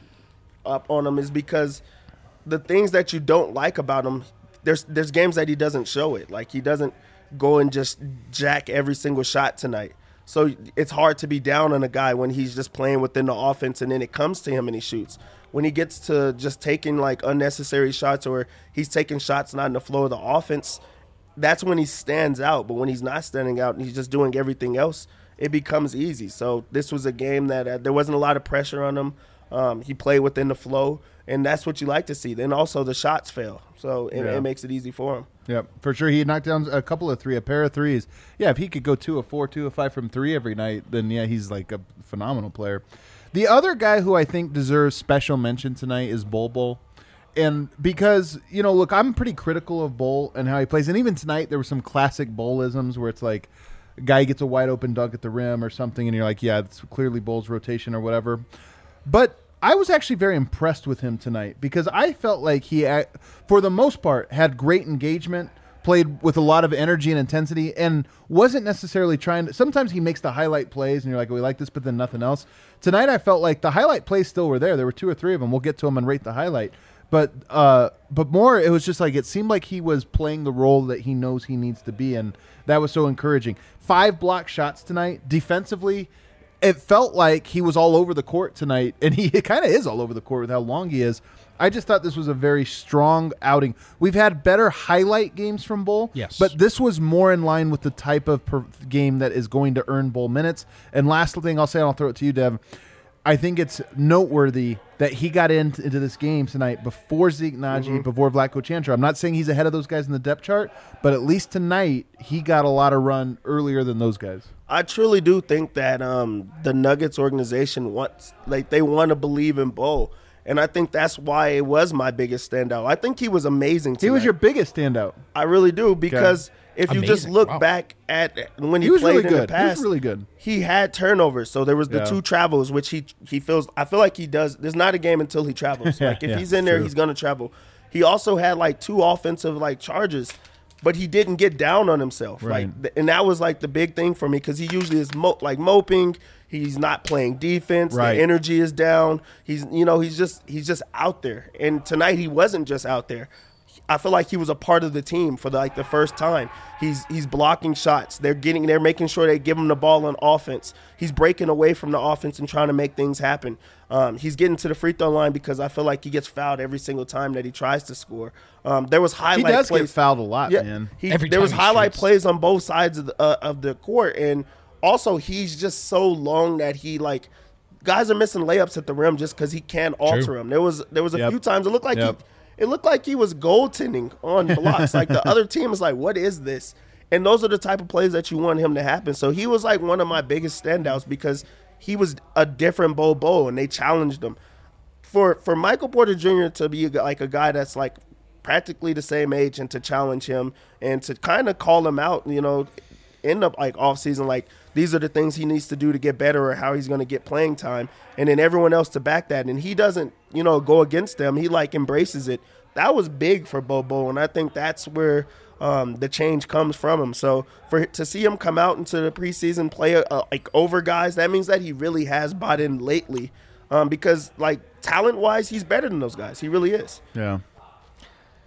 Speaker 4: up on him is because the things that you don't like about him, there's there's games that he doesn't show it. Like he doesn't go and just jack every single shot tonight. So it's hard to be down on a guy when he's just playing within the offense and then it comes to him and he shoots. When he gets to just taking like unnecessary shots, or he's taking shots not in the flow of the offense, that's when he stands out. But when he's not standing out and he's just doing everything else, it becomes easy. So this was a game that uh, there wasn't a lot of pressure on him. Um, he played within the flow, and that's what you like to see. Then also the shots fail, so it,
Speaker 3: Yeah.
Speaker 4: it makes it easy for him.
Speaker 3: Yep, for sure. He knocked down a couple of three, a pair of threes. Yeah, if he could go two of four, two of five from three every night, then yeah, he's like a phenomenal player. The other guy who I think deserves special mention tonight is Bol Bol. And because, you know, look, I'm pretty critical of Bol and how he plays. And even tonight, there were some classic Bolisms where it's like a guy gets a wide open dunk at the rim or something, and you're like, yeah, it's clearly Bol's rotation or whatever. But I was actually very impressed with him tonight because I felt like he, for the most part, had great engagement, played with a lot of energy and intensity, and wasn't necessarily trying to. Sometimes he makes the highlight plays, and you're like, oh, we like this, but then nothing else. Tonight, I felt like the highlight plays still were there. There were two or three of them. We'll get to them and rate the highlight. But uh, but more, it was just like it seemed like he was playing the role that he knows he needs to be, and that was so encouraging. Five block shots tonight. Defensively, it felt like he was all over the court tonight, and he kind of is all over the court with how long he is. I just thought this was a very strong outing. We've had better highlight games from Bol,
Speaker 2: Yes.
Speaker 3: but this was more in line with the type of per- game that is going to earn Bol minutes. And last thing I'll say, and I'll throw it to you, Dev, I think it's noteworthy that he got into, into this game tonight before Zeke Naji,
Speaker 4: Mm-hmm.
Speaker 3: before Vlatko Chantra. I'm not saying he's ahead of those guys in the depth chart, but at least tonight he got a lot of run earlier than those guys.
Speaker 4: I truly do think that um, the Nuggets organization wants, like, they want to believe in Bol. And I think that's why it was my biggest standout. I think he was amazing tonight.
Speaker 3: He was your biggest standout.
Speaker 4: I really do, because if you just
Speaker 2: Amazing.
Speaker 4: look
Speaker 2: Wow.
Speaker 4: back at when he,
Speaker 3: He was
Speaker 4: played
Speaker 3: really
Speaker 4: in the
Speaker 3: good. He was
Speaker 4: past,
Speaker 3: really good.
Speaker 4: he had turnovers. So there was the
Speaker 3: Yeah.
Speaker 4: two travels, which he he feels. I feel like he does. There's not a game until he travels. Like if
Speaker 3: Yeah,
Speaker 4: he's in there,
Speaker 3: true.
Speaker 4: he's gonna travel. He also had like two offensive like charges, but he didn't get down on himself.
Speaker 3: Right.
Speaker 4: Like, th- and that was like the big thing for me, because he usually is mo- like moping. He's not playing defense.
Speaker 3: Right.
Speaker 4: The energy is down. He's you know he's just he's just out there. And tonight he wasn't just out there. I feel like he was a part of the team for the, like the first time. He's he's blocking shots. They're getting they're making sure they give him the ball on offense. He's breaking away from the offense and trying to make things happen. Um, he's getting to the free throw line because I feel like he gets fouled every single time that he tries to score. Um, there was
Speaker 3: He
Speaker 4: highlight
Speaker 3: does
Speaker 4: plays.
Speaker 3: get fouled a lot,
Speaker 4: Yeah,
Speaker 3: man.
Speaker 4: he,
Speaker 2: Every
Speaker 4: there
Speaker 2: time
Speaker 4: was
Speaker 2: he
Speaker 4: highlight
Speaker 2: shoots.
Speaker 4: plays on both sides of the, uh, of the court, and also he's just so long that he like guys are missing layups at the rim just because he can't alter
Speaker 2: True.
Speaker 4: them. There was there was a
Speaker 3: Yep.
Speaker 4: few times it looked like
Speaker 3: Yep.
Speaker 4: he. It looked like he was goaltending on blocks. Like the other team was like, what is this? And those are the type of plays that you want him to happen. So he was like one of my biggest standouts because he was a different Bol Bol, and they challenged him. For for Michael Porter Junior to be a, gu- like a guy that's like practically the same age, and to challenge him and to kind of call him out, you know, end up like off season, like these are the things he needs to do to get better or how he's going to get playing time, and then everyone else to back that, and he doesn't, you know, go against them. He like embraces it. That was big for Bobo, and I think that's where um, the change comes from him. So for to see him come out into the preseason play uh, like over guys, that means that he really has bought in lately, um, because like talent wise, he's better than those guys. He really is.
Speaker 3: Yeah.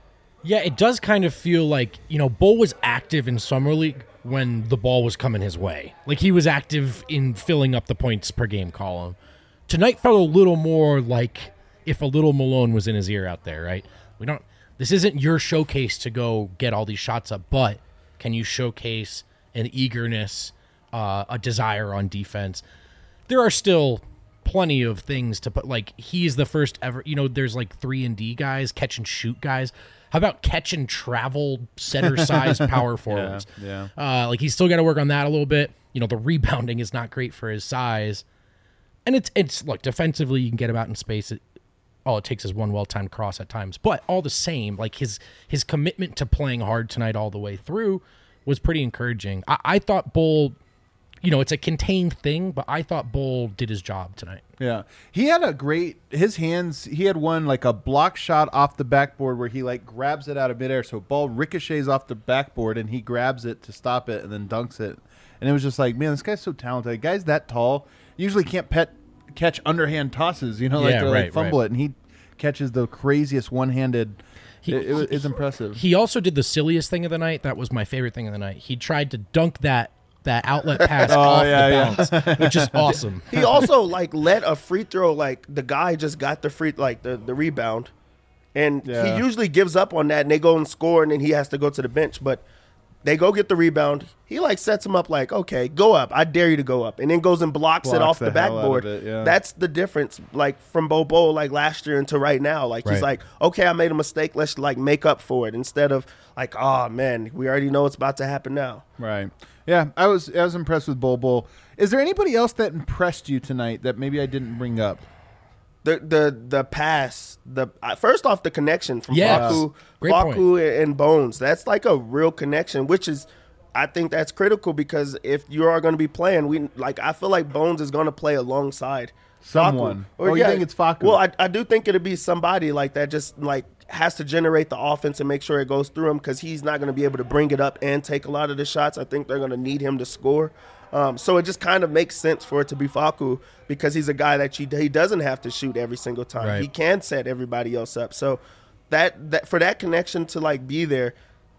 Speaker 2: Yeah, it does kind of feel like, you know, Bull was active in Summer League when the ball was coming his way. Like, he was active in filling up the points per game column. Tonight felt a little more like if a little Malone was in his ear out there, right? We don't. This isn't your showcase to go get all these shots up, but can you showcase an eagerness, uh, a desire on defense? There are still plenty of things to put. Like, he's the first ever. You know, there's like three and D guys, catch and shoot guys. How about catch and travel center size power forwards?
Speaker 3: Yeah, yeah.
Speaker 2: Uh, like, he's still got to work on that a little bit. You know, the rebounding is not great for his size. And it's, it's look, defensively, you can get him out in space. It, all it takes is one well-timed cross at times. But all the same, like, his his commitment to playing hard tonight all the way through was pretty encouraging. I, I thought Bull, you know, it's a contained thing, but I thought Bull did his job tonight.
Speaker 3: Yeah. He had a great, his hands, he had one like a block shot off the backboard where he like grabs it out of midair. So ball ricochets off the backboard and he grabs it to stop it and then dunks it. And it was just like, man, this guy's so talented. Guy's that tall, usually can't pet, catch underhand tosses, you know, like,
Speaker 2: Yeah,
Speaker 3: they like
Speaker 2: right,
Speaker 3: fumble
Speaker 2: right.
Speaker 3: it. And he catches the craziest one-handed.
Speaker 2: He,
Speaker 3: it, it was, it's impressive.
Speaker 2: He also did the silliest thing of the night. That was my favorite thing of the night. He tried to dunk that that outlet pass
Speaker 3: Oh,
Speaker 2: off
Speaker 3: yeah,
Speaker 2: the bounce, which is awesome.
Speaker 4: He also like let a free throw. Like the guy just got the free like the, the rebound, and
Speaker 3: Yeah.
Speaker 4: he usually gives up on that, and they go and score, and then he has to go to the bench. But they go get the rebound. He like sets him up like, okay, go up. I dare you to go up, and then goes and blocks, it
Speaker 3: Blocks
Speaker 4: off
Speaker 3: the
Speaker 4: the,
Speaker 3: hell out of
Speaker 4: backboard.
Speaker 3: it, yeah.
Speaker 4: That's the difference, like from Bobo like last year into right now. Like
Speaker 2: Right.
Speaker 4: he's like, okay, I made a mistake. Let's like make up for it instead of like, oh man, we already know what's about to happen now.
Speaker 3: Right. Yeah, I was I was impressed with Bol Bol. Is there anybody else that impressed you tonight that maybe I didn't bring up?
Speaker 4: The the the pass, the uh, first off the connection from
Speaker 2: Yes.
Speaker 4: Facu,
Speaker 2: Great
Speaker 4: Facu and Bones. That's like a real connection, which is, I think that's critical because if you are going to be playing, we like I feel like Bones is going to play alongside
Speaker 3: Someone.
Speaker 4: Facu.
Speaker 3: Oh, you think it's Facu?
Speaker 4: Well, I, I do think it'll be somebody like that. Just like has to generate the offense and make sure it goes through him because he's not going to be able to bring it up and take a lot of the shots. I think they're going to need him to score. Um, so it just kind of makes sense for it to be Facu because he's a guy that you, he doesn't have to shoot every single time.
Speaker 2: Right.
Speaker 4: He can set everybody else up. So that that for that connection to like be there,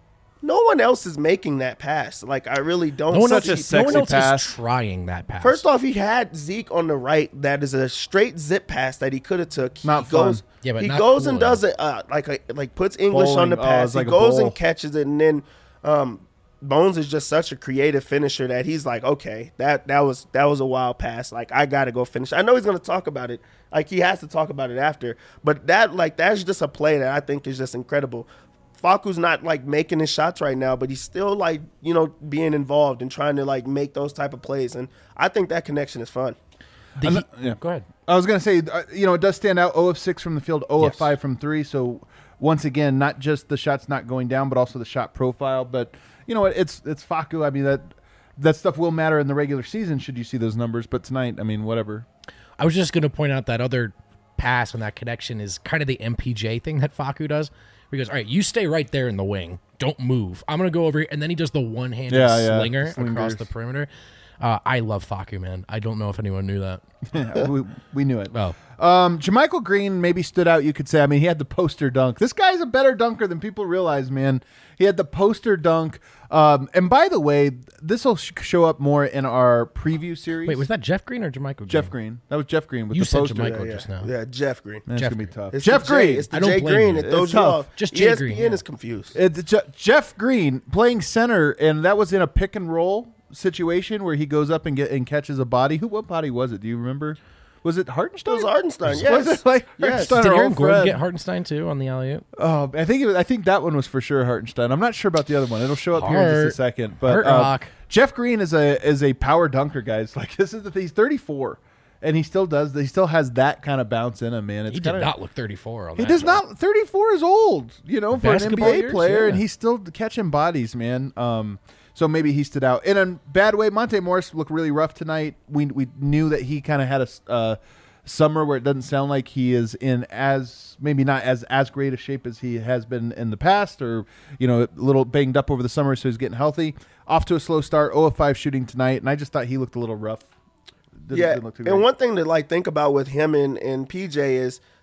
Speaker 4: no one else is making that pass. Like I really don't.
Speaker 2: No one
Speaker 3: Such
Speaker 2: else,
Speaker 3: a
Speaker 2: no one
Speaker 3: sexy
Speaker 2: else
Speaker 3: pass.
Speaker 2: is trying that pass.
Speaker 4: First off, he had Zeke on the right. That is a straight zip pass that he could have took. He
Speaker 3: Not fun.
Speaker 4: goes,
Speaker 2: Yeah, but
Speaker 4: he
Speaker 2: not
Speaker 4: goes
Speaker 2: cool
Speaker 4: and
Speaker 2: enough.
Speaker 4: does it uh, like a, like puts English
Speaker 3: Bowling.
Speaker 4: on the
Speaker 3: Oh,
Speaker 4: pass.
Speaker 3: it's like
Speaker 4: he
Speaker 3: a
Speaker 4: goes
Speaker 3: bowl.
Speaker 4: and catches it, and then um, Bones is just such a creative finisher that he's like, okay, that that was that was a wild pass. Like I got to go finish. I know he's gonna talk about it. Like he has to talk about it after. But that like that's just a play that I think is just incredible. Facu's not like making his shots right now, but he's still like, you know, being involved and trying to like make those type of plays. And I think that connection is fun.
Speaker 2: The
Speaker 3: I'm
Speaker 2: Heat-
Speaker 3: not- yeah.
Speaker 2: Go ahead.
Speaker 3: I was going to say, uh, you know, it does stand out. zero of six from the field, zero of
Speaker 2: Yes.
Speaker 3: five from three. So once again, not just the shots not going down, but also the shot profile. But you know what? It's it's Facu. I mean that that stuff will matter in the regular season. Should you see those numbers? But tonight, I mean, whatever.
Speaker 2: I was just going to point out that other pass and that connection is kind of the M P J thing that Facu does. He goes, all right, you stay right there in the wing. Don't move. I'm going to go over here. And then he does the one-handed
Speaker 3: Yeah, yeah.
Speaker 2: slinger across
Speaker 3: Slingers.
Speaker 2: the perimeter. Uh, I love Facu, man. I don't know if anyone knew that.
Speaker 3: Yeah, we, we knew it.
Speaker 2: Oh.
Speaker 3: Um, Jermichael Green maybe stood out, you could say. I mean, he had the poster dunk. This guy's a better dunker than people realize, man. He had the poster dunk. Um, and by the way, this will sh- show up more in our preview series.
Speaker 2: Wait, was that Jeff Green or Jermichael Green?
Speaker 3: Jeff Green? That was Jeff Green with
Speaker 2: You
Speaker 3: the
Speaker 2: said
Speaker 3: poster.
Speaker 2: Jermichael.
Speaker 4: yeah,
Speaker 2: just now.
Speaker 4: yeah, Jeff Green.
Speaker 3: Man, it's
Speaker 2: Jeff
Speaker 3: going to be
Speaker 2: Green.
Speaker 3: tough.
Speaker 4: It's
Speaker 3: Jeff
Speaker 4: the J-
Speaker 3: Green.
Speaker 4: It's the
Speaker 2: I don't
Speaker 4: Jay
Speaker 2: blame
Speaker 4: Green.
Speaker 2: you.
Speaker 4: It throws
Speaker 3: It's
Speaker 4: you
Speaker 3: tough.
Speaker 4: off.
Speaker 2: Just
Speaker 4: E
Speaker 2: Jay
Speaker 4: S P N
Speaker 2: Green, yeah.
Speaker 4: is confused.
Speaker 3: It's Je- Jeff Green playing center, and that was in a pick and roll situation where he goes up and get and catches a body. Who? What body was it? Do you remember? Was it Hartenstein?
Speaker 4: It was Hartenstein, yes.
Speaker 3: Was it like
Speaker 4: Yes.
Speaker 3: Hartenstein,
Speaker 2: Did
Speaker 3: our
Speaker 2: Aaron
Speaker 3: old
Speaker 2: Gordon
Speaker 3: friend?
Speaker 2: get Hartenstein too on the alley-oop?
Speaker 3: Oh, I think it was, I think that one was for sure Hartenstein. I'm not sure about the other one. It'll show up here in
Speaker 2: Hart.
Speaker 3: just a second. But
Speaker 2: Hart
Speaker 3: uh,
Speaker 2: rock.
Speaker 3: Jeff Green is a is a power dunker, guys. Like this is the thing. He's thirty-four, and he still does. He still has that kind of bounce in him, man. It's
Speaker 2: He did
Speaker 3: kinda,
Speaker 2: not look thirty-four on
Speaker 3: He
Speaker 2: that.
Speaker 3: does
Speaker 2: shot.
Speaker 3: not. thirty-four is old, you know, for an N B
Speaker 2: Basketball
Speaker 3: A
Speaker 2: years,
Speaker 3: player, and
Speaker 2: yeah.
Speaker 3: he's still catching bodies, man. Um, so maybe he stood out in a bad way. Monte Morris looked really rough tonight. We we knew that he kind of had a uh, summer where it doesn't sound like he is in as maybe not as as great a shape as he has been in the past, or you know, a little banged up over the summer, so he's getting healthy. Off to a slow start. zero of five shooting tonight, and I just thought he looked a little rough. Didn't-
Speaker 4: Yeah,
Speaker 3: didn't look too
Speaker 4: and
Speaker 3: great.
Speaker 4: one thing to like think about with him and, and P J is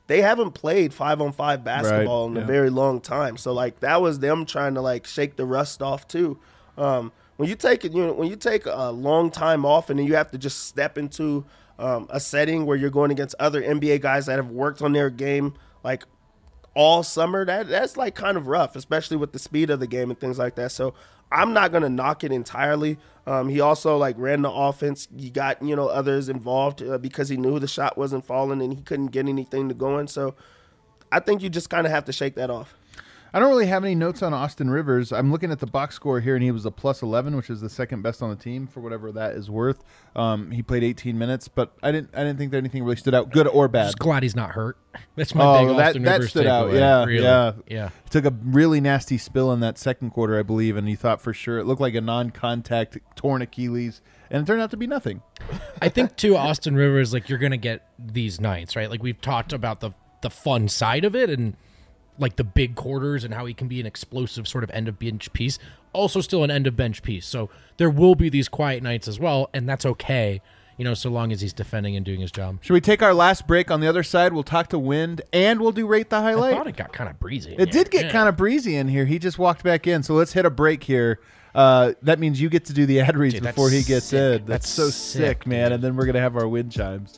Speaker 4: they haven't played five on five basketball
Speaker 3: Right,
Speaker 4: in
Speaker 3: yeah.
Speaker 4: a very long time. So like that was them trying to like shake the rust off too. Um, when you take it, you know, when you take a long time off and then you have to just step into um, a setting where you're going against other N B A guys that have worked on their game like all summer, that that's like kind of rough, especially with the speed of the game and things like that. So I'm not gonna knock it entirely. Um, he also like ran the offense. He got, you know, others involved uh, because he knew the shot wasn't falling and he couldn't get anything to going. So I think you just kind of have to shake that off.
Speaker 3: I don't really have any notes on Austin Rivers. I'm looking at the box score here, and he was a plus eleven, which is the second best on the team for whatever that is worth. Um, he played eighteen minutes, but I didn't. I didn't think that anything really stood out, good or bad.
Speaker 2: Just glad he's not hurt. That's my
Speaker 3: Oh,
Speaker 2: big
Speaker 3: that-
Speaker 2: Austin
Speaker 3: that
Speaker 2: Rivers
Speaker 3: stood out.
Speaker 2: takeaway.
Speaker 3: Yeah,
Speaker 2: Really.
Speaker 3: yeah.
Speaker 2: yeah.
Speaker 3: He took a really nasty spill in that second quarter, I believe, and he thought for sure it looked like a non-contact torn Achilles, and it turned out to be nothing.
Speaker 2: I think too, Austin Rivers, like you're gonna get these nights, right? Like we've talked about the the fun side of it and like the big quarters and how he can be an explosive sort of end of bench piece, also still an end of bench piece. So there will be these quiet nights as well, and that's okay, you know, so long as he's defending and doing his job.
Speaker 3: Should we take our last break? On the other side, we'll talk to Wind, and we'll do Rate the
Speaker 2: I
Speaker 3: Highlight.
Speaker 2: thought it got kind of breezy.
Speaker 3: It did get kind of breezy in here. He just walked back in, so let's hit a break here. Uh, that means you get to do the ad reads
Speaker 2: Dude, that's
Speaker 3: before he gets
Speaker 2: sick.
Speaker 3: in. That's,
Speaker 2: That's
Speaker 3: so
Speaker 2: sick,
Speaker 3: sick, man.
Speaker 2: dude.
Speaker 3: And then we're gonna have our wind chimes.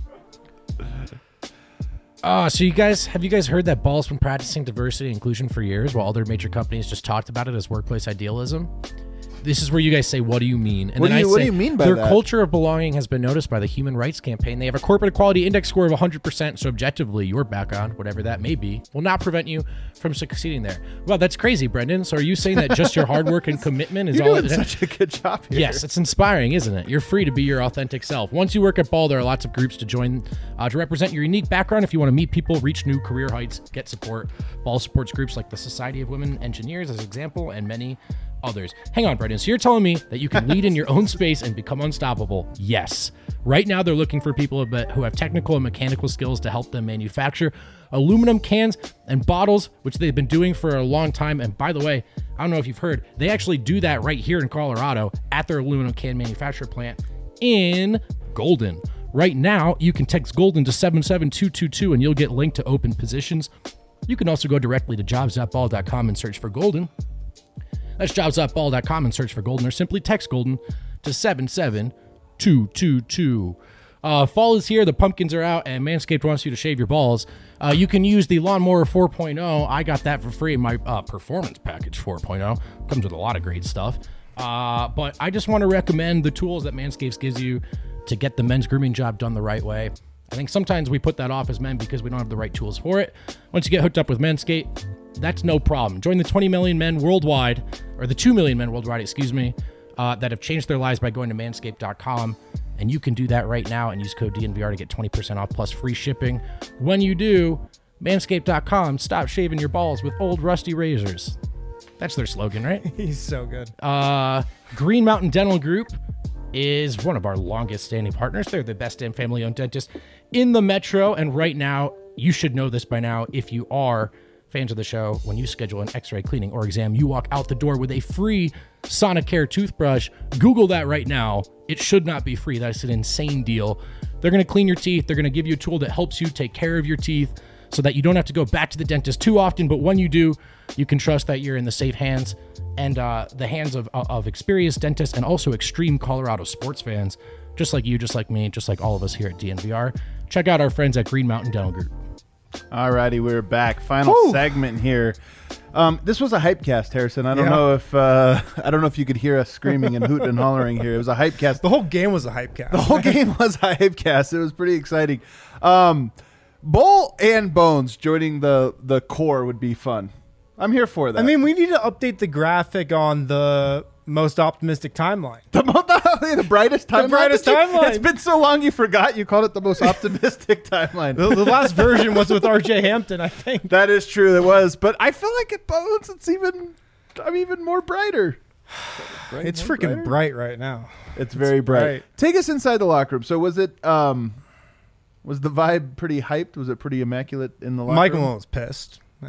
Speaker 2: Uh, so you guys, have you guys heard that Ball's been practicing diversity and inclusion for years while other major companies just talked about it as workplace idealism? This is where you guys say, what do you mean? And
Speaker 3: What
Speaker 2: then
Speaker 3: do you-
Speaker 2: I
Speaker 3: what
Speaker 2: say,
Speaker 3: do you mean by
Speaker 2: their
Speaker 3: that?
Speaker 2: culture of belonging has been noticed by the Human Rights Campaign. They have a corporate equality index score of one hundred percent, so objectively, your background, whatever that may be, will not prevent you from succeeding there. Well, that's crazy, Brendan. So are you saying that just your hard work and commitment is
Speaker 3: You're
Speaker 2: all
Speaker 3: doing
Speaker 2: it
Speaker 3: such a good job here.
Speaker 2: Yes, it's inspiring, isn't it? You're free to be your authentic self. Once you work at Ball, there are lots of groups to join uh, to represent your unique background. If you want to meet people, reach new career heights, get support. Ball supports groups like the Society of Women Engineers, as an example, and many others. Hang on, Brendan. So you're telling me that you can lead in your own space and become unstoppable? Yes. Right now, they're looking for people who have technical and mechanical skills to help them manufacture aluminum cans and bottles, which they've been doing for a long time. And by the way, I don't know if you've heard, they actually do that right here in Colorado at their aluminum can manufacturer plant in Golden. Right now, you can text Golden to seven seven two two two and you'll get linked to open positions. You can also go directly to jobs dot ball dot com and search for Golden. That's jobs dot ball dot com and search for Golden, or simply text Golden to seven seven two two two. Uh, fall is here, the pumpkins are out, and Manscaped wants you to shave your balls. Uh, you can use the Lawnmower four point oh. I got that for free in my uh, Performance Package four point oh. Comes with a lot of great stuff. Uh, but I just want to recommend the tools that Manscaped gives you to get the men's grooming job done the right way. I think sometimes we put that off as men because we don't have the right tools for it. Once you get hooked up with Manscaped, that's no problem. Join the twenty million men worldwide, or the two million men worldwide, excuse me, uh, that have changed their lives by going to manscaped dot com. And you can do that right now and use code D N V R to get twenty percent off plus free shipping. When you do, manscaped dot com, stop shaving your balls with old rusty razors. That's their slogan, right?
Speaker 5: He's so good.
Speaker 2: Uh, Green Mountain Dental Group is one of our longest standing partners. They're the best and family owned dentist in the metro. And right now, you should know this by now if you are fans of the show. When you schedule an x-ray cleaning or exam, you walk out the door with a free Sonicare toothbrush. Google that right now. It should not be free. That's an insane deal. They're going to clean your teeth. They're going to give you a tool that helps you take care of your teeth so that you don't have to go back to the dentist too often. But when you do, you can trust that you're in the safe hands and uh, the hands of, of experienced dentists and also extreme Colorado sports fans, just like you, just like me, just like all of us here at D N V R. Check out our friends at Green Mountain Dental Group.
Speaker 3: Alrighty, we're back. Final
Speaker 5: Woo.
Speaker 3: segment here. Um, this was a hype cast, Harrison. I don't
Speaker 5: Yeah.
Speaker 3: know if uh, I don't know if you could hear us screaming and hooting and hollering here. It was a hype cast.
Speaker 5: The whole game was a hype cast.
Speaker 3: The whole game was a hype cast. It was pretty exciting. Um, Bull and Bones joining the the core would be fun. I'm here for that.
Speaker 5: I mean, we need to update the graphic on the most optimistic timeline.
Speaker 3: the, mo- the, the brightest timeline.
Speaker 5: brightest
Speaker 3: Did you-
Speaker 5: timeline.
Speaker 3: It's been so long you forgot you called it the most optimistic timeline.
Speaker 5: The, the last version was with R J Hampton, I think.
Speaker 3: That is true. It was, but I feel like at Bones, it's even. I'm even more brighter. Bright,
Speaker 5: It's
Speaker 3: more
Speaker 5: freaking
Speaker 3: brighter?
Speaker 5: bright right now.
Speaker 3: It's very bright.
Speaker 5: bright.
Speaker 3: Take us inside the locker room. So was it? Um, was the vibe pretty hyped? Was it pretty immaculate in the locker
Speaker 5: Michael
Speaker 3: room?
Speaker 5: was pissed. I mean,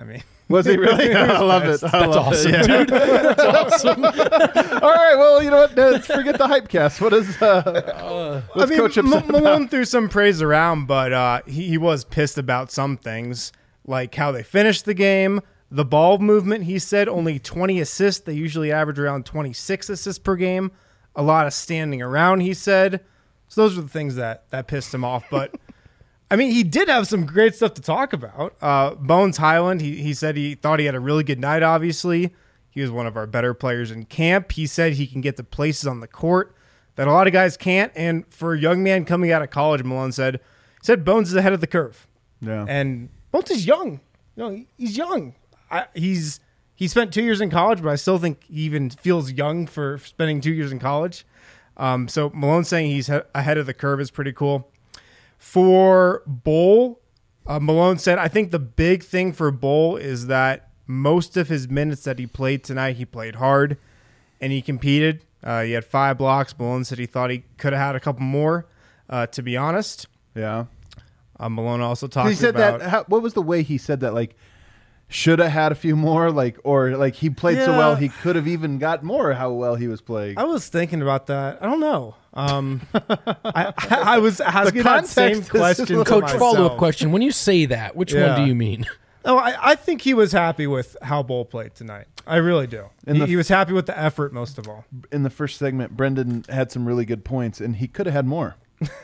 Speaker 3: Was he really? I love it. I
Speaker 2: That's
Speaker 3: love
Speaker 2: awesome,
Speaker 3: it. Yeah.
Speaker 2: dude. That's awesome.
Speaker 3: All right. Well, you know what? Let's forget the hype cast. What is? Uh,
Speaker 5: I
Speaker 3: what's
Speaker 5: mean,
Speaker 3: Coach
Speaker 5: M-
Speaker 3: upset
Speaker 5: Malone
Speaker 3: about?
Speaker 5: threw some praise around, but uh, he, he was pissed about some things, like how they finished the game, the ball movement. He said only twenty assists. They usually average around twenty-six assists per game. A lot of standing around, he said. So those are the things that, that pissed him off. But, I mean, he did have some great stuff to talk about. Uh, Bones Highland, he, he said he thought he had a really good night, obviously. He was one of our better players in camp. He said he can get to places on the court that a lot of guys can't. And for a young man coming out of college, Malone said, said Bones is ahead of the curve.
Speaker 3: Yeah.
Speaker 5: And Bones is young. You know, he's young. I, he's he spent two years in college, but I still think he even feels young for spending two years in college. Um, so Malone saying he's he- ahead of the curve is pretty cool. For Bull, uh, Malone said, I think the big thing for Bull is that most of his minutes that he played tonight, he played hard and he competed. Uh, he had five blocks. Malone said he thought he could have had a couple more, uh, to be honest.
Speaker 3: Yeah.
Speaker 5: Uh, Malone also talked
Speaker 3: He said
Speaker 5: about...
Speaker 3: that. How, what was the way he said that? Like, should have had a few more. Like, or like he played so
Speaker 5: Yeah.
Speaker 3: well he could have even got more. How well he was playing.
Speaker 5: I was thinking about that. I don't know. Um, I, I, I was asking that
Speaker 3: context
Speaker 5: same
Speaker 3: is
Speaker 5: question to
Speaker 2: Coach,
Speaker 5: myself.
Speaker 2: follow up question. When you say that, which
Speaker 5: Yeah.
Speaker 2: one do you mean?
Speaker 5: No, I, I think he was happy with how Bull played tonight. I really do.
Speaker 3: And
Speaker 5: He,
Speaker 3: the-
Speaker 5: he was happy with the effort most of all.
Speaker 3: In the first segment, Brendan had some really good points, and he could have had more.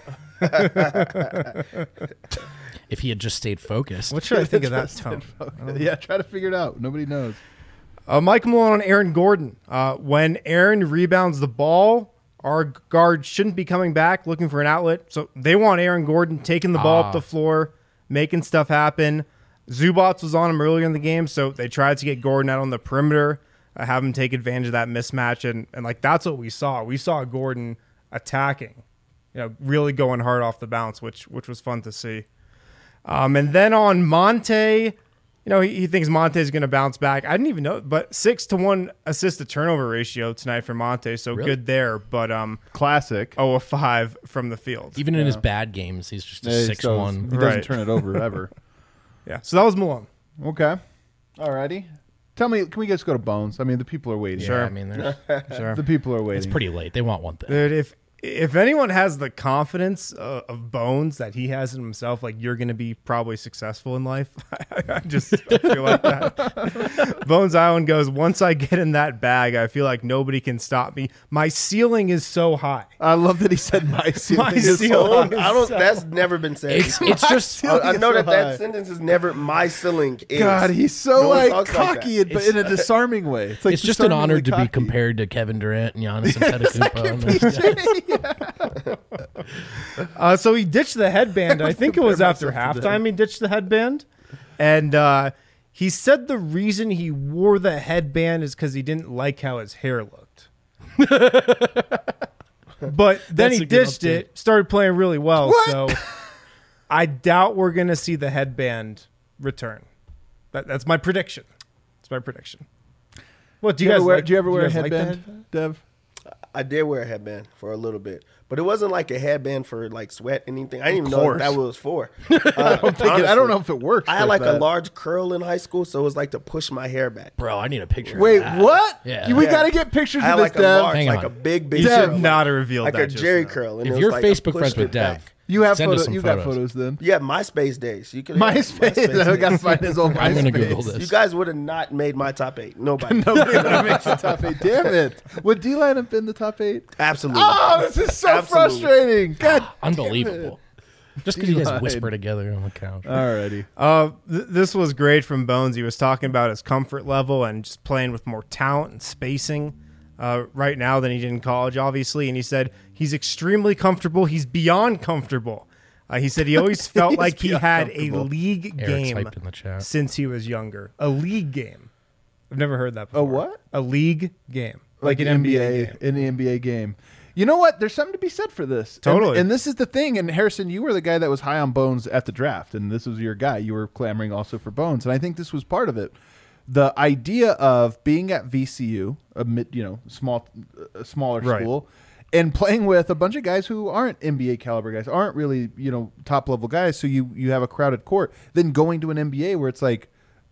Speaker 2: If he had just stayed focused.
Speaker 5: What should I think of that tone?
Speaker 3: Yeah, try to figure it out. Nobody knows.
Speaker 5: Uh, Mike Malone on Aaron Gordon. Uh, when Aaron rebounds the ball, our guard shouldn't be coming back looking for an outlet. So they want Aaron Gordon taking the ball
Speaker 2: Ah.
Speaker 5: up the floor, making stuff happen. Zubats was on him earlier in the game, so they tried to get Gordon out on the perimeter, uh, have him take advantage of that mismatch, and and like that's what we saw. We saw Gordon attacking, you know, really going hard off the bounce, which which was fun to see. Um, and then on Monte, you know, he, he thinks Monte is going to bounce back. I didn't even know, but six to one assist to turnover ratio tonight for Monte, so
Speaker 2: Really?
Speaker 5: good there. But um,
Speaker 3: Classic.
Speaker 5: oh of five from the field.
Speaker 2: Even in his bad games, he's just a
Speaker 3: Yeah, he
Speaker 2: six
Speaker 3: still-
Speaker 2: one.
Speaker 3: He doesn't
Speaker 5: Right.
Speaker 3: turn it over ever.
Speaker 5: Yeah, so that was Malone.
Speaker 3: Okay. Alrighty. Tell me, can we just go to Bones? I mean, the people are waiting.
Speaker 2: Yeah, I mean, they're-
Speaker 5: Sure.
Speaker 3: The people are waiting.
Speaker 2: it's pretty late. They want one thing.
Speaker 5: Dude, if if anyone has the confidence uh, of Bones that he has in himself, like you're going to be probably successful in life. I just I feel like that. Bones Island goes, once I get in that bag, I feel like nobody can stop me. My ceiling is so high.
Speaker 3: I love that he said my ceiling.
Speaker 5: My
Speaker 3: is so
Speaker 5: ceiling.
Speaker 3: high.
Speaker 4: I don't. That's never been said.
Speaker 2: It's, it's just
Speaker 4: I, I know
Speaker 3: so
Speaker 4: that
Speaker 3: high.
Speaker 4: that sentence is never my ceiling. Is.
Speaker 3: God, he's so
Speaker 4: No one
Speaker 3: like
Speaker 4: talks like
Speaker 3: cocky,
Speaker 4: that.
Speaker 3: and, but in a disarming way. It's like
Speaker 2: it's just an honor
Speaker 3: disarmingly
Speaker 2: to be
Speaker 3: cocky.
Speaker 2: compared to Kevin Durant and Giannis Antetokounmpo.
Speaker 5: Uh, so he ditched the headband. I think it was after halftime he ditched the headband. And uh, he said the reason he wore the headband is because he didn't like how his hair looked. But then
Speaker 2: That's
Speaker 5: he
Speaker 2: a good
Speaker 5: ditched
Speaker 2: update.
Speaker 5: it, started playing really well.
Speaker 3: What?
Speaker 5: So I doubt we're going to see the headband return. That, that's my prediction. That's my prediction. What do
Speaker 3: Do
Speaker 5: you,
Speaker 3: you,
Speaker 5: guys
Speaker 3: ever wear,
Speaker 5: like?
Speaker 3: do you ever wear a
Speaker 5: guys like the
Speaker 3: headband, Dev?
Speaker 4: I did wear a headband for a little bit, but it wasn't like a headband for like sweat anything. I didn't even know
Speaker 3: course.
Speaker 4: what that was for. Uh, I, don't
Speaker 3: Think it- I don't know if it works.
Speaker 4: I had like
Speaker 3: that.
Speaker 4: a large curl in high school, so it was like to push my hair back.
Speaker 2: Bro, I need a picture.
Speaker 3: Wait,
Speaker 2: of that.
Speaker 3: what?
Speaker 2: Yeah.
Speaker 3: You- we
Speaker 4: Yeah.
Speaker 3: got to get pictures
Speaker 4: I had
Speaker 3: of this,
Speaker 4: like a
Speaker 3: Dev.
Speaker 4: large,
Speaker 2: Hang
Speaker 4: like
Speaker 2: on.
Speaker 4: a big, big
Speaker 5: You
Speaker 3: Dev,
Speaker 5: should
Speaker 4: curl,
Speaker 5: not have revealed
Speaker 4: like
Speaker 5: that
Speaker 4: a
Speaker 5: just
Speaker 4: Jerry
Speaker 5: now.
Speaker 4: curl. And
Speaker 2: If
Speaker 4: it
Speaker 2: you're
Speaker 4: was like I
Speaker 2: Facebook friends
Speaker 4: pushed
Speaker 2: with
Speaker 4: it
Speaker 2: Dev,
Speaker 4: back.
Speaker 3: You have
Speaker 2: Send us
Speaker 3: photos.
Speaker 2: some
Speaker 3: You got
Speaker 2: photos.
Speaker 3: photos then.
Speaker 4: Yeah, MySpace days. You could
Speaker 3: MySpace. I got to find his old MySpace.
Speaker 2: I'm gonna Google this.
Speaker 4: You guys would have not made my top eight. Nobody.
Speaker 3: Nobody ever makes the top eight. Damn it! Would D-Line have been the top eight?
Speaker 4: Absolutely.
Speaker 3: Oh, this is so
Speaker 4: Absolutely.
Speaker 3: frustrating. God,
Speaker 2: Unbelievable. Just because you guys
Speaker 3: D-line.
Speaker 2: whisper together on the couch.
Speaker 3: alrighty.
Speaker 5: Uh, th- this was great from Bones. He was talking about his comfort level and just playing with more talent and spacing uh, right now than he did in college, obviously. And he said he's extremely comfortable. He's beyond comfortable. Uh, he said he always felt
Speaker 3: He's
Speaker 5: like he
Speaker 3: beyond
Speaker 5: had a
Speaker 3: comfortable.
Speaker 5: league
Speaker 2: Eric's
Speaker 5: game
Speaker 2: hyped in the chat.
Speaker 5: since he was younger. A league game. I've never heard that before.
Speaker 3: A what?
Speaker 5: A league game.
Speaker 3: Like, an N B A,
Speaker 5: game.
Speaker 3: in the N B A game. You know what? There's something to be said for this. And-
Speaker 5: Totally.
Speaker 3: And, this is the thing. And Harrison, you were the guy that was high on Bones at the draft, and this was your guy. You were clamoring also for Bones, and I think this was part of it. The idea of being at V C U, a mid, you know, small, a smaller
Speaker 5: Right.
Speaker 3: school, and playing with a bunch of guys who aren't N B A caliber guys, aren't really, you know, top level guys. So you you have a crowded court. Then going to an N B A where it's like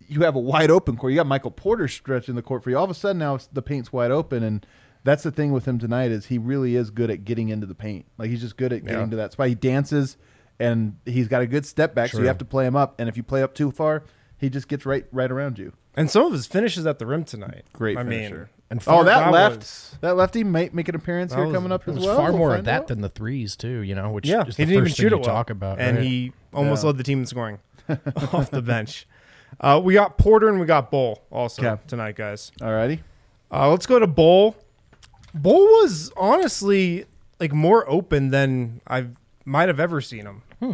Speaker 3: you have a wide open court. You got Michael Porter stretching the court for you. All of a sudden now it's, the paint's wide open, and that's the thing with him tonight is he really is good at getting into the paint. Like he's just good at getting
Speaker 5: Yeah.
Speaker 3: to that spot. He dances, and he's got a good step back, so you have to play him up. And if you play up too far, he just gets right right around you.
Speaker 5: And some of his finishes at the rim tonight.
Speaker 3: Great
Speaker 5: I
Speaker 3: finisher.
Speaker 5: mean,
Speaker 2: And
Speaker 3: Oh,
Speaker 2: far,
Speaker 3: that,
Speaker 5: that
Speaker 3: left
Speaker 5: was-
Speaker 3: that lefty might make an appearance
Speaker 5: That
Speaker 3: here
Speaker 5: was-
Speaker 3: coming up
Speaker 2: it
Speaker 3: as
Speaker 2: was
Speaker 3: well.
Speaker 2: far
Speaker 3: We'll
Speaker 2: more of
Speaker 3: find
Speaker 2: that
Speaker 3: out.
Speaker 2: than the threes too. You know, which
Speaker 5: yeah,
Speaker 2: is
Speaker 5: he
Speaker 2: the
Speaker 5: didn't even
Speaker 2: first
Speaker 5: shoot
Speaker 2: thing
Speaker 5: it
Speaker 2: you
Speaker 5: well.
Speaker 2: talk about.
Speaker 5: and
Speaker 2: right?
Speaker 5: he almost
Speaker 3: Yeah.
Speaker 5: led the team in scoring off the bench. Uh, we got Porter and we got Bull also
Speaker 3: Okay.
Speaker 5: tonight, guys.
Speaker 3: Alrighty.
Speaker 5: Uh, let's go to Bull. Bull was honestly like more open than I might have ever seen him.
Speaker 2: Hmm.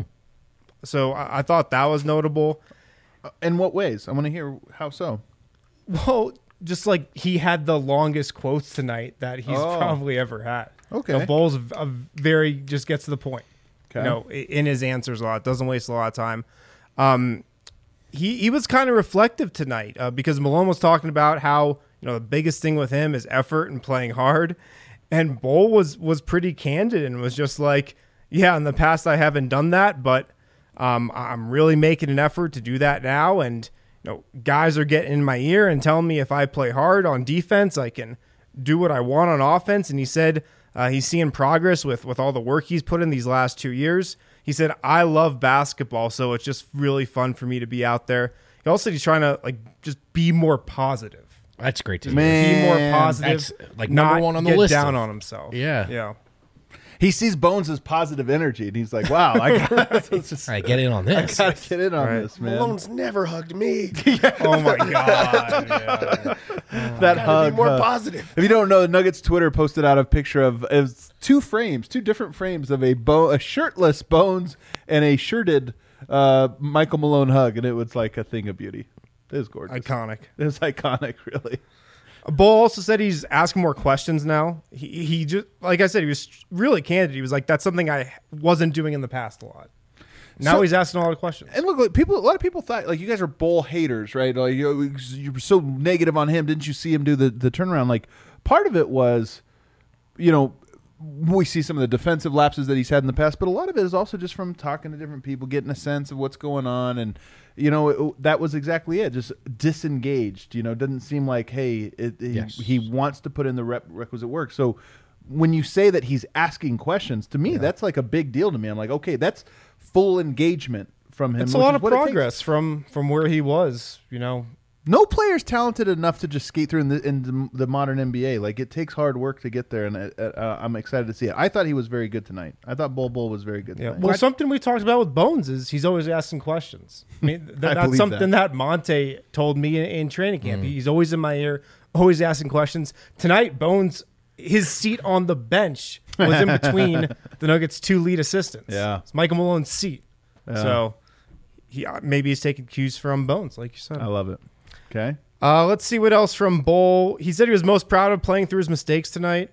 Speaker 5: So I, I thought that was notable.
Speaker 3: In what ways? I want to hear how so.
Speaker 5: Well, just like he had the longest quotes tonight that he's
Speaker 3: Oh.
Speaker 5: probably ever had.
Speaker 3: Okay.
Speaker 5: The Bull's a, a very just gets to the point.
Speaker 3: Okay.
Speaker 5: You know, i- in his answers a lot, doesn't waste a lot of time. Um, he he was kind of reflective tonight uh, because Malone was talking about how you know the biggest thing with him is effort and playing hard, and Bull was was pretty candid and was just like, yeah, in the past I haven't done that, but um, I'm really making an effort to do that now, and you know, guys are getting in my ear and telling me if I play hard on defense, I can do what I want on offense. And he said uh, he's seeing progress with, with all the work he's put in these last two years. He said, I love basketball, so it's just really fun for me to be out there. He also said he's trying to like just be more positive.
Speaker 2: That's great to hear.
Speaker 3: Man.
Speaker 5: Be more positive.
Speaker 2: That's, like, number
Speaker 5: not
Speaker 2: one on the
Speaker 5: get
Speaker 2: list
Speaker 5: down
Speaker 2: of-
Speaker 5: on himself.
Speaker 2: Yeah.
Speaker 5: Yeah.
Speaker 3: He sees Bones as positive energy, and he's like, "Wow, I got just,
Speaker 2: All right, get in on this.
Speaker 3: gotta get in on
Speaker 5: Right.
Speaker 3: this, man."
Speaker 4: Malone's never hugged me.
Speaker 5: Oh my God. Yeah.
Speaker 3: That
Speaker 4: Gotta
Speaker 3: hug.
Speaker 4: be more
Speaker 3: uh,
Speaker 4: positive.
Speaker 3: If you don't know, Nuggets Twitter posted out a picture of it was two frames, two different frames of a bo- a shirtless Bones and a shirted uh, Michael Malone hug, and it was like a thing of beauty. It was gorgeous.
Speaker 5: Iconic.
Speaker 3: It was iconic, really.
Speaker 5: Bull also said he's asking more questions now. He he just like I said, he was really candid. He was like, "That's something I wasn't doing in the past a lot." Now
Speaker 3: So-
Speaker 5: he's asking a lot of questions.
Speaker 3: And look, like people, a lot of people thought like you guys are Bull haters, right? Like you, you were so negative on him. Didn't you see him do the the turnaround? Like part of it was, you know, we see some of the defensive lapses that he's had in the past, but a lot of it is also just from talking to different people, getting a sense of what's going on, and you know it, that was exactly it. Just disengaged. You know, doesn't seem like hey, it, he,
Speaker 2: Yes.
Speaker 3: he wants to put in the rep, requisite work. So when you say that he's asking questions, to me, that's like a big deal to me. I'm like, okay, that's full engagement from him.
Speaker 5: It's a
Speaker 3: which
Speaker 5: lot
Speaker 3: is
Speaker 5: of
Speaker 3: what it takes.
Speaker 5: progress from from where he was. You know,
Speaker 3: No player's talented enough to just skate through in the, in the, the modern N B A. Like it takes hard work to get there, and uh, uh, I'm excited to see it. I thought he was very good tonight. I thought Bol Bol was very good
Speaker 5: yeah.
Speaker 3: tonight.
Speaker 5: Well, something we talked about with Bones is he's always asking questions. I mean, th-
Speaker 3: I
Speaker 5: that's
Speaker 3: believe
Speaker 5: something that. Monte told me in, in training camp. He's always in my ear, always asking questions. Tonight, Bones, his seat on the bench was in between the Nuggets' two lead assistants.
Speaker 3: Yeah.
Speaker 5: It's Michael Malone's seat. So he uh, maybe he's taking cues from Bones, like you said.
Speaker 3: I love it. Okay.
Speaker 5: Uh, let's see what else from Bull. He said he was most proud of playing through his mistakes tonight,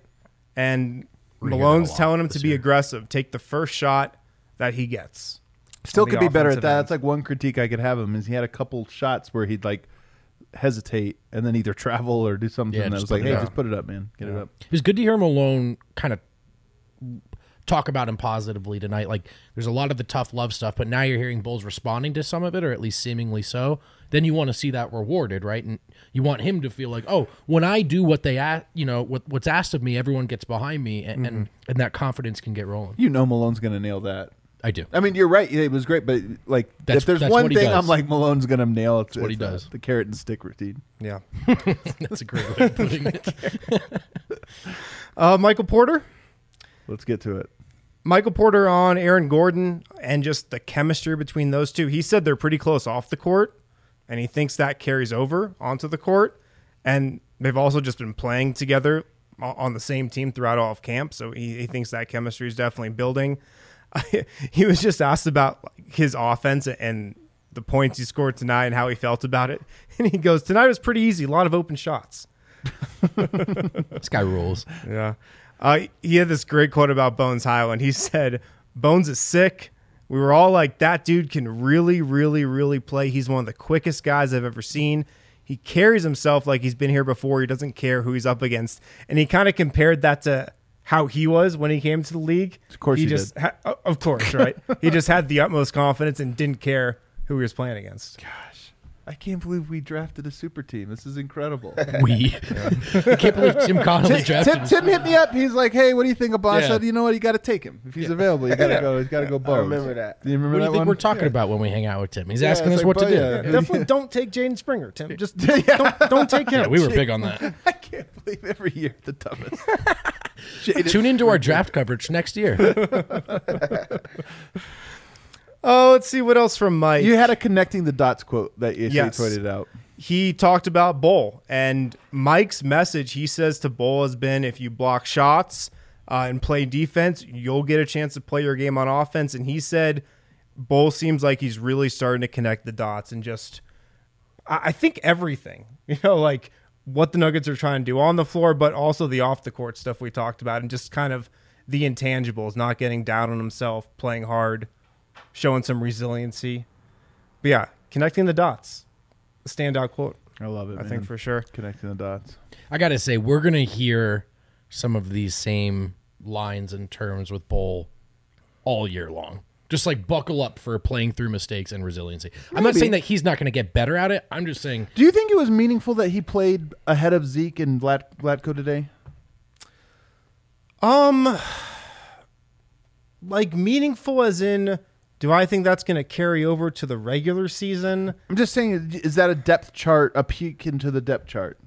Speaker 5: and
Speaker 2: We're hearing
Speaker 5: Malone's
Speaker 2: that a lot
Speaker 5: telling him to
Speaker 2: this
Speaker 5: be
Speaker 2: year.
Speaker 5: aggressive, take the first shot that he gets.
Speaker 3: Still
Speaker 5: on the
Speaker 3: could be better at
Speaker 5: offensive
Speaker 3: that.
Speaker 5: end.
Speaker 3: That's like one critique I could have him is he had a couple shots where he'd like hesitate and then either travel or do something
Speaker 2: Yeah,
Speaker 3: that
Speaker 2: just
Speaker 3: was like,
Speaker 2: put it
Speaker 3: hey,
Speaker 2: up.
Speaker 3: just put it up, man, get it up.
Speaker 2: It was good to hear Malone kind of talk about him positively tonight. Like, there's a lot of the tough love stuff, but now you're hearing Bulls responding to some of it, or at least seemingly so. Then you want to see that rewarded, right? And you want him to feel like, oh, when I do what they ask, you know, what, what's asked of me, everyone gets behind me, and, and and that confidence can get rolling.
Speaker 3: You know Malone's gonna nail that.
Speaker 2: I do.
Speaker 3: I mean, you're right. It was great, but like,
Speaker 2: That's-
Speaker 3: if there's
Speaker 2: that's
Speaker 3: one
Speaker 2: what he
Speaker 3: thing
Speaker 2: does.
Speaker 3: I'm like Malone's gonna nail, it's,
Speaker 2: what he
Speaker 3: it's, uh,
Speaker 2: does.
Speaker 3: the carrot and stick routine.
Speaker 5: Yeah.
Speaker 2: That's a great way of putting it.
Speaker 5: Uh, Michael Porter.
Speaker 3: Let's get to it.
Speaker 5: Michael Porter on Aaron Gordon and just the chemistry between those two. He said they're pretty close off the court, and he thinks that carries over onto the court. And they've also just been playing together o- on the same team throughout all of camp, so he, he thinks that chemistry is definitely building. He was just asked about his offense and the points he scored tonight and how he felt about it. And he goes, tonight was pretty easy, a lot of open shots.
Speaker 2: This guy rules.
Speaker 5: Yeah. Uh, he had this great quote about Bones Highland. He said, Bones is sick. We were all like, that dude can really, really, really play. He's one of the quickest guys I've ever seen. He carries himself like he's been here before. He doesn't care who he's up against. And he kind of compared that to how he was when he came to the league.
Speaker 3: Of course
Speaker 5: he,
Speaker 3: he
Speaker 5: just ha- of course, right? He just had the utmost confidence and didn't care who he was playing against.
Speaker 3: I can't believe we drafted a super team. This is incredible.
Speaker 2: We. I can't believe Tim Connolly
Speaker 3: Tim,
Speaker 2: drafted
Speaker 3: Tim,
Speaker 2: him.
Speaker 3: Tim hit me up. He's like, "Hey, what do you think of Bosch?"
Speaker 2: Yeah.
Speaker 3: I said, "You know what? You got to take him if he's available. You got to go. He's got to go Bones."
Speaker 4: I remember that.
Speaker 3: Do you remember
Speaker 2: What do you
Speaker 3: that
Speaker 2: think
Speaker 3: one?
Speaker 2: we're talking about when we hang out with Tim? He's
Speaker 3: Yeah,
Speaker 2: asking
Speaker 3: it's
Speaker 2: us
Speaker 3: like,
Speaker 2: what to
Speaker 3: but
Speaker 2: do.
Speaker 3: yeah.
Speaker 5: Definitely don't take Jaden Springer, Tim. Just don't, don't take him.
Speaker 2: Yeah, we were big on that.
Speaker 3: I can't believe every year the dumbest. Jaden
Speaker 2: Tune into our draft coverage next year.
Speaker 5: Oh, let's see what else from Mike.
Speaker 3: You had a connecting the dots quote that you
Speaker 5: Yes.
Speaker 3: tweeted out.
Speaker 5: He talked about Bull, and Mike's message, he says to Bull, has been if you block shots uh, and play defense, you'll get a chance to play your game on offense. And he said Bull seems like he's really starting to connect the dots and just, I, I think everything, you know, like what the Nuggets are trying to do on the floor, but also the off the court stuff we talked about, and just kind of the intangibles, not getting down on himself, playing hard, showing some resiliency. But yeah, connecting the dots. Standout quote.
Speaker 3: I love it.
Speaker 5: I
Speaker 3: man.
Speaker 5: think for sure.
Speaker 3: Connecting the dots.
Speaker 2: I got to say, we're going to hear some of these same lines and terms with Bull all year long. Just like buckle up for playing through mistakes and resiliency. I'm not
Speaker 3: Maybe.
Speaker 2: saying that he's not going to get better at it. I'm just saying,
Speaker 3: Do you think it was meaningful that he played ahead of Zeke and Vlad, Vlatko today?
Speaker 5: Um, like meaningful as in, do I think that's going to carry over to the regular season?
Speaker 3: I'm just saying, is that a depth chart, a peek into the depth chart?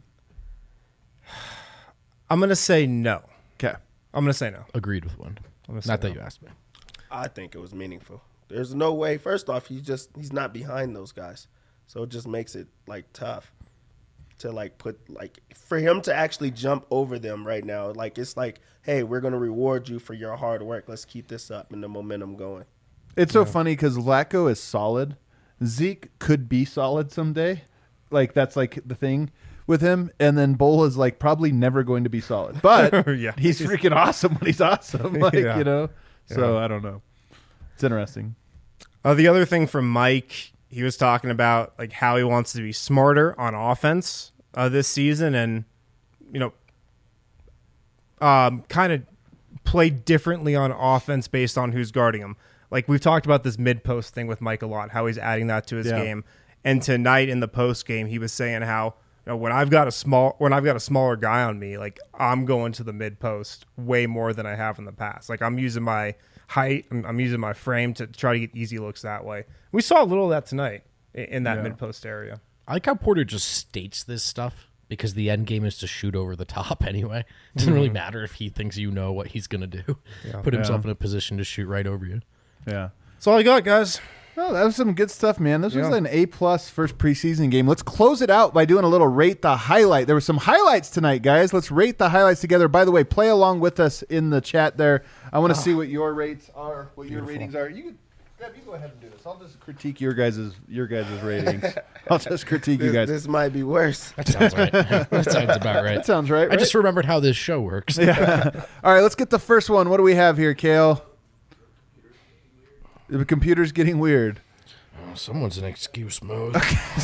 Speaker 5: I'm going to say no.
Speaker 3: Okay.
Speaker 5: I'm going to say no.
Speaker 2: agreed with one.
Speaker 5: I'm gonna say
Speaker 2: Not that
Speaker 5: no.
Speaker 2: you asked me.
Speaker 4: I think it was meaningful. There's no way. First off, he's just he's not behind those guys, so it just makes it like tough to like put like for him to actually jump over them right now. Like it's like, hey, we're gonna reward you for your hard work. Let's keep this up and the momentum going.
Speaker 3: It's so funny because Vlatko is solid. Zeke could be solid someday. Like, that's like the thing with him. And then Bull is like probably never going to be solid. But
Speaker 5: Yeah.
Speaker 3: he's freaking awesome when he's awesome. Like,
Speaker 5: Yeah.
Speaker 3: you know? So
Speaker 5: Yeah.
Speaker 3: I don't know. It's interesting.
Speaker 5: Uh, the other thing from Mike, he was talking about like how he wants to be smarter on offense uh, this season, and you know, um, kind of play differently on offense based on who's guarding him. Like we've talked about this mid post thing with Mike a lot, how he's adding that to his
Speaker 3: Yeah.
Speaker 5: game. And tonight in the post game, he was saying how you know, when I've got a small when I've got a smaller guy on me, like I'm going to the mid post way more than I have in the past. Like I'm using my height, I'm, I'm using my frame to try to get easy looks that way. We saw a little of that tonight in, in that
Speaker 3: Yeah.
Speaker 5: mid post area.
Speaker 2: I like how Porter just states this stuff because the end game is to shoot over the top anyway. It doesn't really matter if he thinks you know what he's going to do. Put himself
Speaker 3: Yeah.
Speaker 2: in a position to shoot right over you.
Speaker 3: Yeah.
Speaker 5: That's all I got, guys.
Speaker 3: Oh, that was some good stuff, man. This was
Speaker 5: Yeah.
Speaker 3: an A-plus first preseason game. Let's close it out by doing a little rate the highlight. There were some highlights tonight, guys. Let's rate the highlights together. By the way, play along with us in the chat there. I want to see what your rates are, what your ratings are. You, Deb, you go ahead and do this. I'll just critique your guys' your guys' ratings. I'll just critique you
Speaker 4: This,
Speaker 3: guys.
Speaker 4: this might be worse.
Speaker 2: That sounds right. that sounds about right.
Speaker 3: That sounds right,
Speaker 2: I just
Speaker 3: right?
Speaker 2: remembered how this show works.
Speaker 3: All right, let's get the first one. What do we have here, Kale? The computer's getting weird.
Speaker 2: Oh, someone's in excuse mode.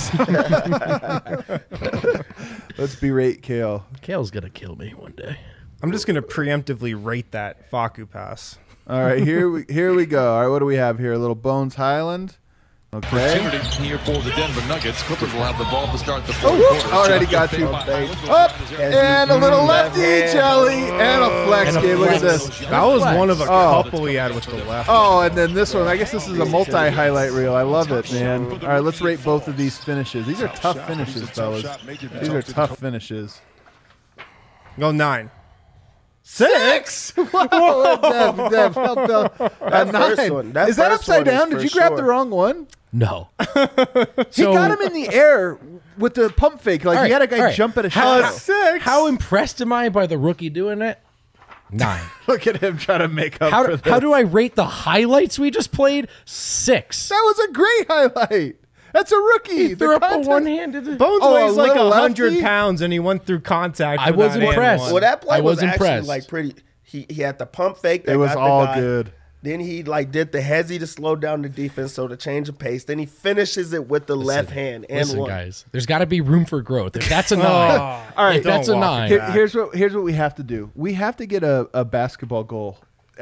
Speaker 3: Let's berate Kale.
Speaker 2: Kale's going to kill me one day.
Speaker 5: I'm just gonna preemptively rate that Facu pass.
Speaker 3: All right, here we here we go. All right, what do we have here? A little Bones Highland. Okay.
Speaker 6: Opportunity here for the Denver Nuggets. Clippers will have the ball to start the fourth
Speaker 3: Oh, whoop,
Speaker 6: quarter.
Speaker 3: already got you. Up and a little lefty jelly and a flex
Speaker 2: And a
Speaker 3: game. Look at
Speaker 2: flex.
Speaker 3: this.
Speaker 5: That was one of a
Speaker 3: Oh.
Speaker 5: couple he had with the left.
Speaker 3: Oh, and then this one. I guess this is a multi-highlight reel. I love it, man. All right, let's rate both of these finishes. These are tough finishes, fellas. These are tough finishes.
Speaker 5: Go nine.
Speaker 3: Six. Whoa, Dev, Dev, help, help. A
Speaker 4: That first
Speaker 3: nine.
Speaker 4: one- that
Speaker 3: Is that
Speaker 4: first
Speaker 3: upside
Speaker 4: one is
Speaker 3: down? Did
Speaker 4: for
Speaker 3: you grab the
Speaker 4: sure.
Speaker 3: wrong one?
Speaker 2: No.
Speaker 3: He got him in the air with the pump fake. Like
Speaker 2: All
Speaker 3: he
Speaker 2: right,
Speaker 3: had a guy
Speaker 2: all right.
Speaker 3: jump at a
Speaker 2: How,
Speaker 3: shot.
Speaker 2: how impressed am I by the rookie doing it? Nine.
Speaker 3: Look at him trying to make up
Speaker 2: How,
Speaker 3: for
Speaker 2: do-
Speaker 3: this.
Speaker 2: how do I rate the highlights we just played? Six.
Speaker 3: That was a great highlight. That's a rookie.
Speaker 2: He
Speaker 3: The
Speaker 2: threw up a
Speaker 3: contact-
Speaker 2: one-handed.
Speaker 5: Bones
Speaker 3: Oh, a
Speaker 5: weighs like
Speaker 3: little
Speaker 5: a hundred
Speaker 3: lefty?
Speaker 5: pounds, and he went through contact.
Speaker 2: I
Speaker 5: for
Speaker 2: was
Speaker 5: that and
Speaker 2: impressed.
Speaker 5: one.
Speaker 4: Well, that play
Speaker 2: I
Speaker 4: was,
Speaker 2: was
Speaker 4: actually
Speaker 2: impressed.
Speaker 4: like pretty. He he had the pump fake. That
Speaker 3: It was
Speaker 4: got the
Speaker 3: all
Speaker 4: guy.
Speaker 3: good.
Speaker 4: Then he like did the hezzy to slow down the defense, so to change of pace. Then he finishes it with the left hand and
Speaker 2: Listen,
Speaker 4: one.
Speaker 2: guys, there's got to be room for growth. If that's a nine,
Speaker 3: All right,
Speaker 2: if that's a
Speaker 5: don't walk
Speaker 2: nine,
Speaker 3: Here- here's what here's what we have to do. We have to get a, a basketball goal at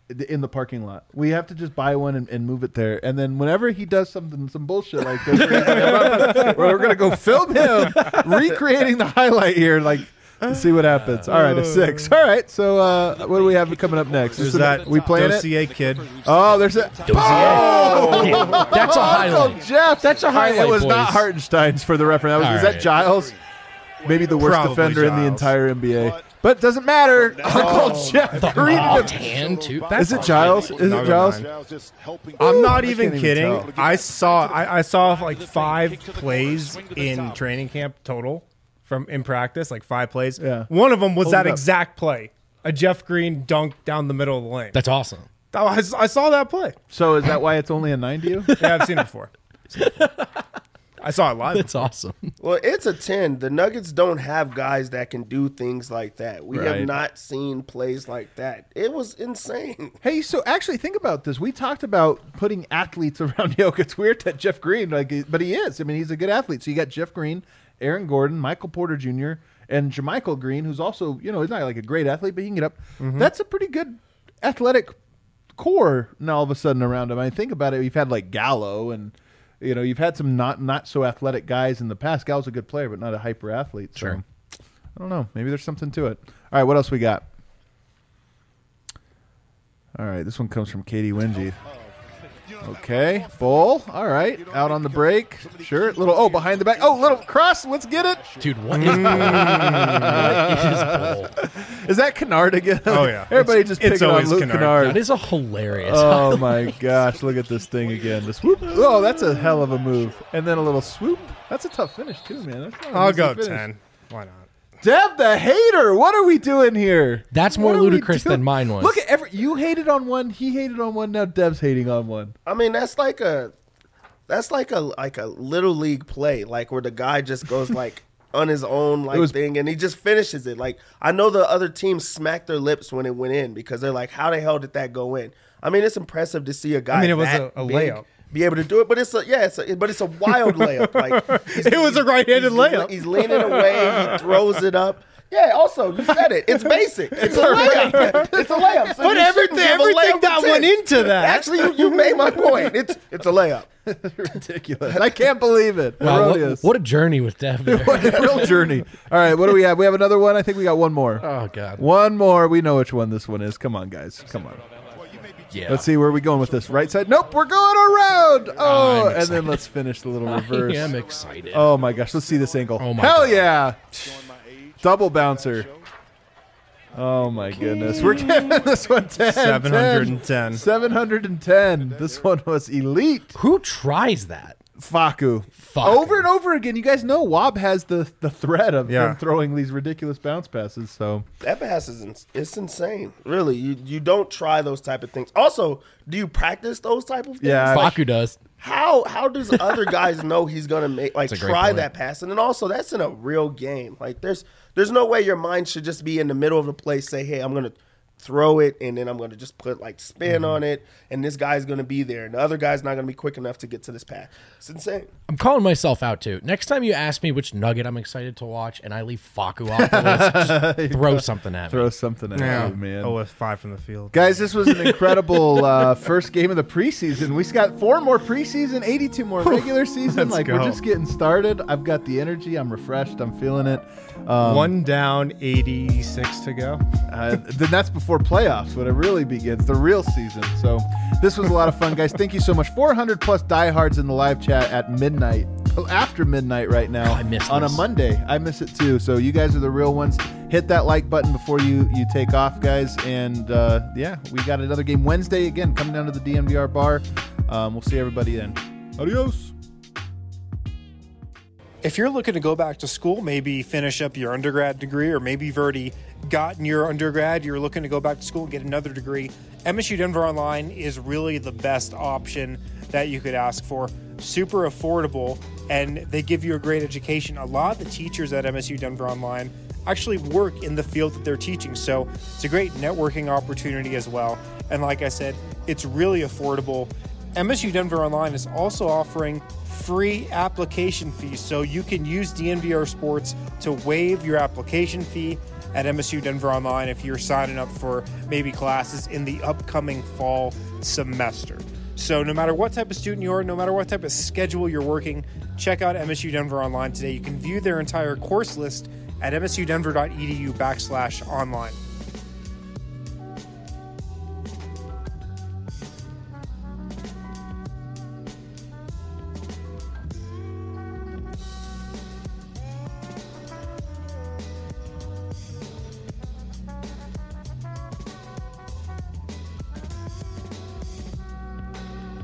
Speaker 3: in the parking lot. We have to just buy one and, and move it there. And then whenever he does something, some bullshit like this, we're gonna, we're gonna go film him recreating the highlight here. Like, let's see what happens. All right, a six. All right, so uh, what do we have coming up next?
Speaker 5: There's
Speaker 3: Is it-
Speaker 5: that
Speaker 3: we playing it?
Speaker 5: Dossier kid.
Speaker 3: Oh, there's a.
Speaker 2: Oh! That's a highlight.
Speaker 3: Uncle Jeff.
Speaker 2: That's a highlight,
Speaker 3: It was not
Speaker 2: boys.
Speaker 3: Hartenstein's for the reference. That was,
Speaker 2: All
Speaker 3: is that
Speaker 2: right.
Speaker 3: Giles? Maybe the worst
Speaker 5: Probably
Speaker 3: defender in the
Speaker 5: Giles.
Speaker 3: entire N B A. But it doesn't matter. Uncle Jeff
Speaker 2: The
Speaker 3: greeted him.
Speaker 2: off hand too. That's
Speaker 3: Is it Giles? Is it
Speaker 5: No,
Speaker 3: Giles?
Speaker 5: no,
Speaker 6: I'm
Speaker 5: I'm not
Speaker 3: I
Speaker 5: even
Speaker 3: can't even
Speaker 5: kidding.
Speaker 3: tell.
Speaker 5: I saw I, I saw like five plays in training camp total from in practice, like five plays.
Speaker 3: Yeah.
Speaker 5: One of them was
Speaker 3: Hold
Speaker 5: that
Speaker 3: it up.
Speaker 5: exact play, a Jeff Green dunk down the middle of the lane.
Speaker 2: That's awesome.
Speaker 5: Oh, I, I saw that play.
Speaker 3: So is that why it's only a nine to you?
Speaker 5: Yeah, I've seen it before. I saw it live.
Speaker 2: That's awesome.
Speaker 4: Well, it's a ten. The Nuggets don't have guys that can do things like that. We
Speaker 3: Right.
Speaker 4: have not seen plays like that. It was insane.
Speaker 3: Hey, so actually think about this. We talked about putting athletes around Jokic. It's weird that Jeff Green, like, but he is. I mean, he's a good athlete. So you got Jeff Green, Aaron Gordon, Michael Porter Junior, and Jermichael Green, who's also, you know, he's not like a great athlete, but he can get up. That's a pretty good athletic core now all of a sudden around him. I mean, think about it. We've had like Gallo and, you know, you've had some not not so athletic guys in the past. Gallo's a good player, but not a hyper athlete. So
Speaker 2: Sure.
Speaker 3: I don't know. Maybe there's something to it. All right, what else we got? All right, this one comes from Katie Wingy. Okay, Bull. All right, out on the break. Sure, little. Oh, behind the back. Oh, little cross. Let's get it.
Speaker 2: Dude, what is what is Bull?
Speaker 3: Is that Kennard again?
Speaker 5: Oh, yeah.
Speaker 3: Everybody
Speaker 5: It's-
Speaker 3: just
Speaker 5: it's
Speaker 3: picking on
Speaker 5: always
Speaker 3: Luke
Speaker 5: Kennard.
Speaker 3: Kennard.
Speaker 2: That is a hilarious.
Speaker 3: Oh my gosh! Look at this thing again. The swoop. Oh, that's a hell of a move. And then a little swoop. That's a tough finish too, man. That's not an
Speaker 5: I'll
Speaker 3: easy
Speaker 5: go
Speaker 3: finish.
Speaker 5: ten. Why not?
Speaker 3: Deb the hater. What are we doing here?
Speaker 2: That's more
Speaker 3: What are we
Speaker 2: ludicrous
Speaker 3: doing?
Speaker 2: than mine was.
Speaker 3: Look at every. You hated on one. He hated on one. Now Deb's hating on one.
Speaker 4: I mean, that's like a that's like a like a little league play, like where the guy just goes like on his own like
Speaker 3: was-
Speaker 4: thing and he just finishes it. Like I know the other team smacked their lips when it went in because they're like, how the hell did that go in? I mean, it's impressive to see a guy.
Speaker 5: I mean, it was
Speaker 4: that
Speaker 5: a- a
Speaker 4: big
Speaker 5: layup.
Speaker 4: be able to do it, but it's a yeah, it's a, but it's a wild layup. Like he's-
Speaker 5: It was a right-handed
Speaker 4: he's-
Speaker 5: layup.
Speaker 4: He's leaning away, he throws it up. Yeah. Also, you said it. It's basic. It's a layup. It's a layup. So
Speaker 5: But
Speaker 4: you
Speaker 5: everything,
Speaker 4: shouldn't give a
Speaker 5: everything
Speaker 4: layup
Speaker 5: that
Speaker 4: a ten.
Speaker 5: went into that.
Speaker 4: Actually, you, you made my point. It's it's a layup.
Speaker 3: Ridiculous. I can't believe it.
Speaker 2: Wow, what,
Speaker 3: Erroneous.
Speaker 2: what a journey with Dev there.
Speaker 3: What a real journey. All right, what do we have? We have another one. I think we got one more.
Speaker 2: Oh god.
Speaker 3: One more. We know which one this one is. Come on, guys. Come on.
Speaker 2: Yeah.
Speaker 3: Let's see where are we going with this. Right side. Nope, we're going around. Oh,
Speaker 2: I'm
Speaker 3: and then
Speaker 2: excited.
Speaker 3: let's finish the little
Speaker 2: I
Speaker 3: reverse.
Speaker 2: am excited.
Speaker 3: Oh my gosh, let's see this angle.
Speaker 2: Oh my
Speaker 3: Hell
Speaker 2: God.
Speaker 3: yeah. Double bouncer. Oh my goodness. We're giving this one ten.
Speaker 5: seven hundred ten.
Speaker 3: seven hundred ten. This one was elite.
Speaker 2: Who tries that?
Speaker 3: Faku.
Speaker 2: Faku.
Speaker 3: Over and over again. You guys know Wob has the, the threat of
Speaker 5: Yeah.
Speaker 3: him throwing these ridiculous bounce passes. So
Speaker 4: That pass is ins- it's insane. Really, you you don't try those type of things. Also, do you practice those type of things?
Speaker 3: Yeah.
Speaker 2: Faku does.
Speaker 4: How how does other guys know he's gonna make like
Speaker 2: That's a great
Speaker 4: try
Speaker 2: point.
Speaker 4: that pass? And then also that's in a real game. Like there's there's no way your mind should just be in the middle of the play. Say, hey, I'm gonna throw it, and then I'm gonna just put like spin
Speaker 2: Mm-hmm.
Speaker 4: on it, and this guy's gonna be there, and the other guy's not gonna be quick enough to get to this pass. It's insane.
Speaker 2: I'm calling myself out too. Next time you ask me which nugget I'm excited to watch and I leave Faku off the list, just throw something at me.
Speaker 3: throw something at
Speaker 5: Yeah,
Speaker 3: you, man.
Speaker 5: Oh, with five from the field.
Speaker 3: Guys, this was an incredible uh, first game of the preseason. We got four more preseason, eighty-two more regular season.
Speaker 5: Let's
Speaker 3: like
Speaker 5: go.
Speaker 3: we're just getting started. I've got the energy. I'm refreshed. I'm feeling it. Um,
Speaker 5: One down, eighty-six to go.
Speaker 3: Uh, then that's before playoffs when it really begins, the real season. So this was a lot of fun, guys. Thank you so much. four hundred plus diehards in the live chat at midnight, after midnight right now.
Speaker 2: I miss
Speaker 3: on
Speaker 2: this.
Speaker 3: a Monday. I miss it too. So you guys are the real ones. Hit that like button before you you take off, guys. And uh, yeah, we got another game Wednesday again coming down to the D M V R bar. Um, we'll see everybody then. Adios.
Speaker 1: If you're looking to go back to school, maybe finish up your undergrad degree, or maybe you've already gotten your undergrad, you're looking to go back to school and get another degree, M S U Denver Online is really the best option that you could ask for. Super affordable, and they give you a great education. A lot of the teachers at M S U Denver Online actually work in the field that they're teaching, so it's a great networking opportunity as well. And like I said, it's really affordable. M S U Denver Online is also offering free application fees, so you can use D N V R Sports to waive your application fee at M S U Denver Online if you're signing up for maybe classes in the upcoming fall semester. So no matter what type of student you are, no matter what type of schedule you're working, check out M S U Denver Online today. You can view their entire course list at msudenver.edu backslash online.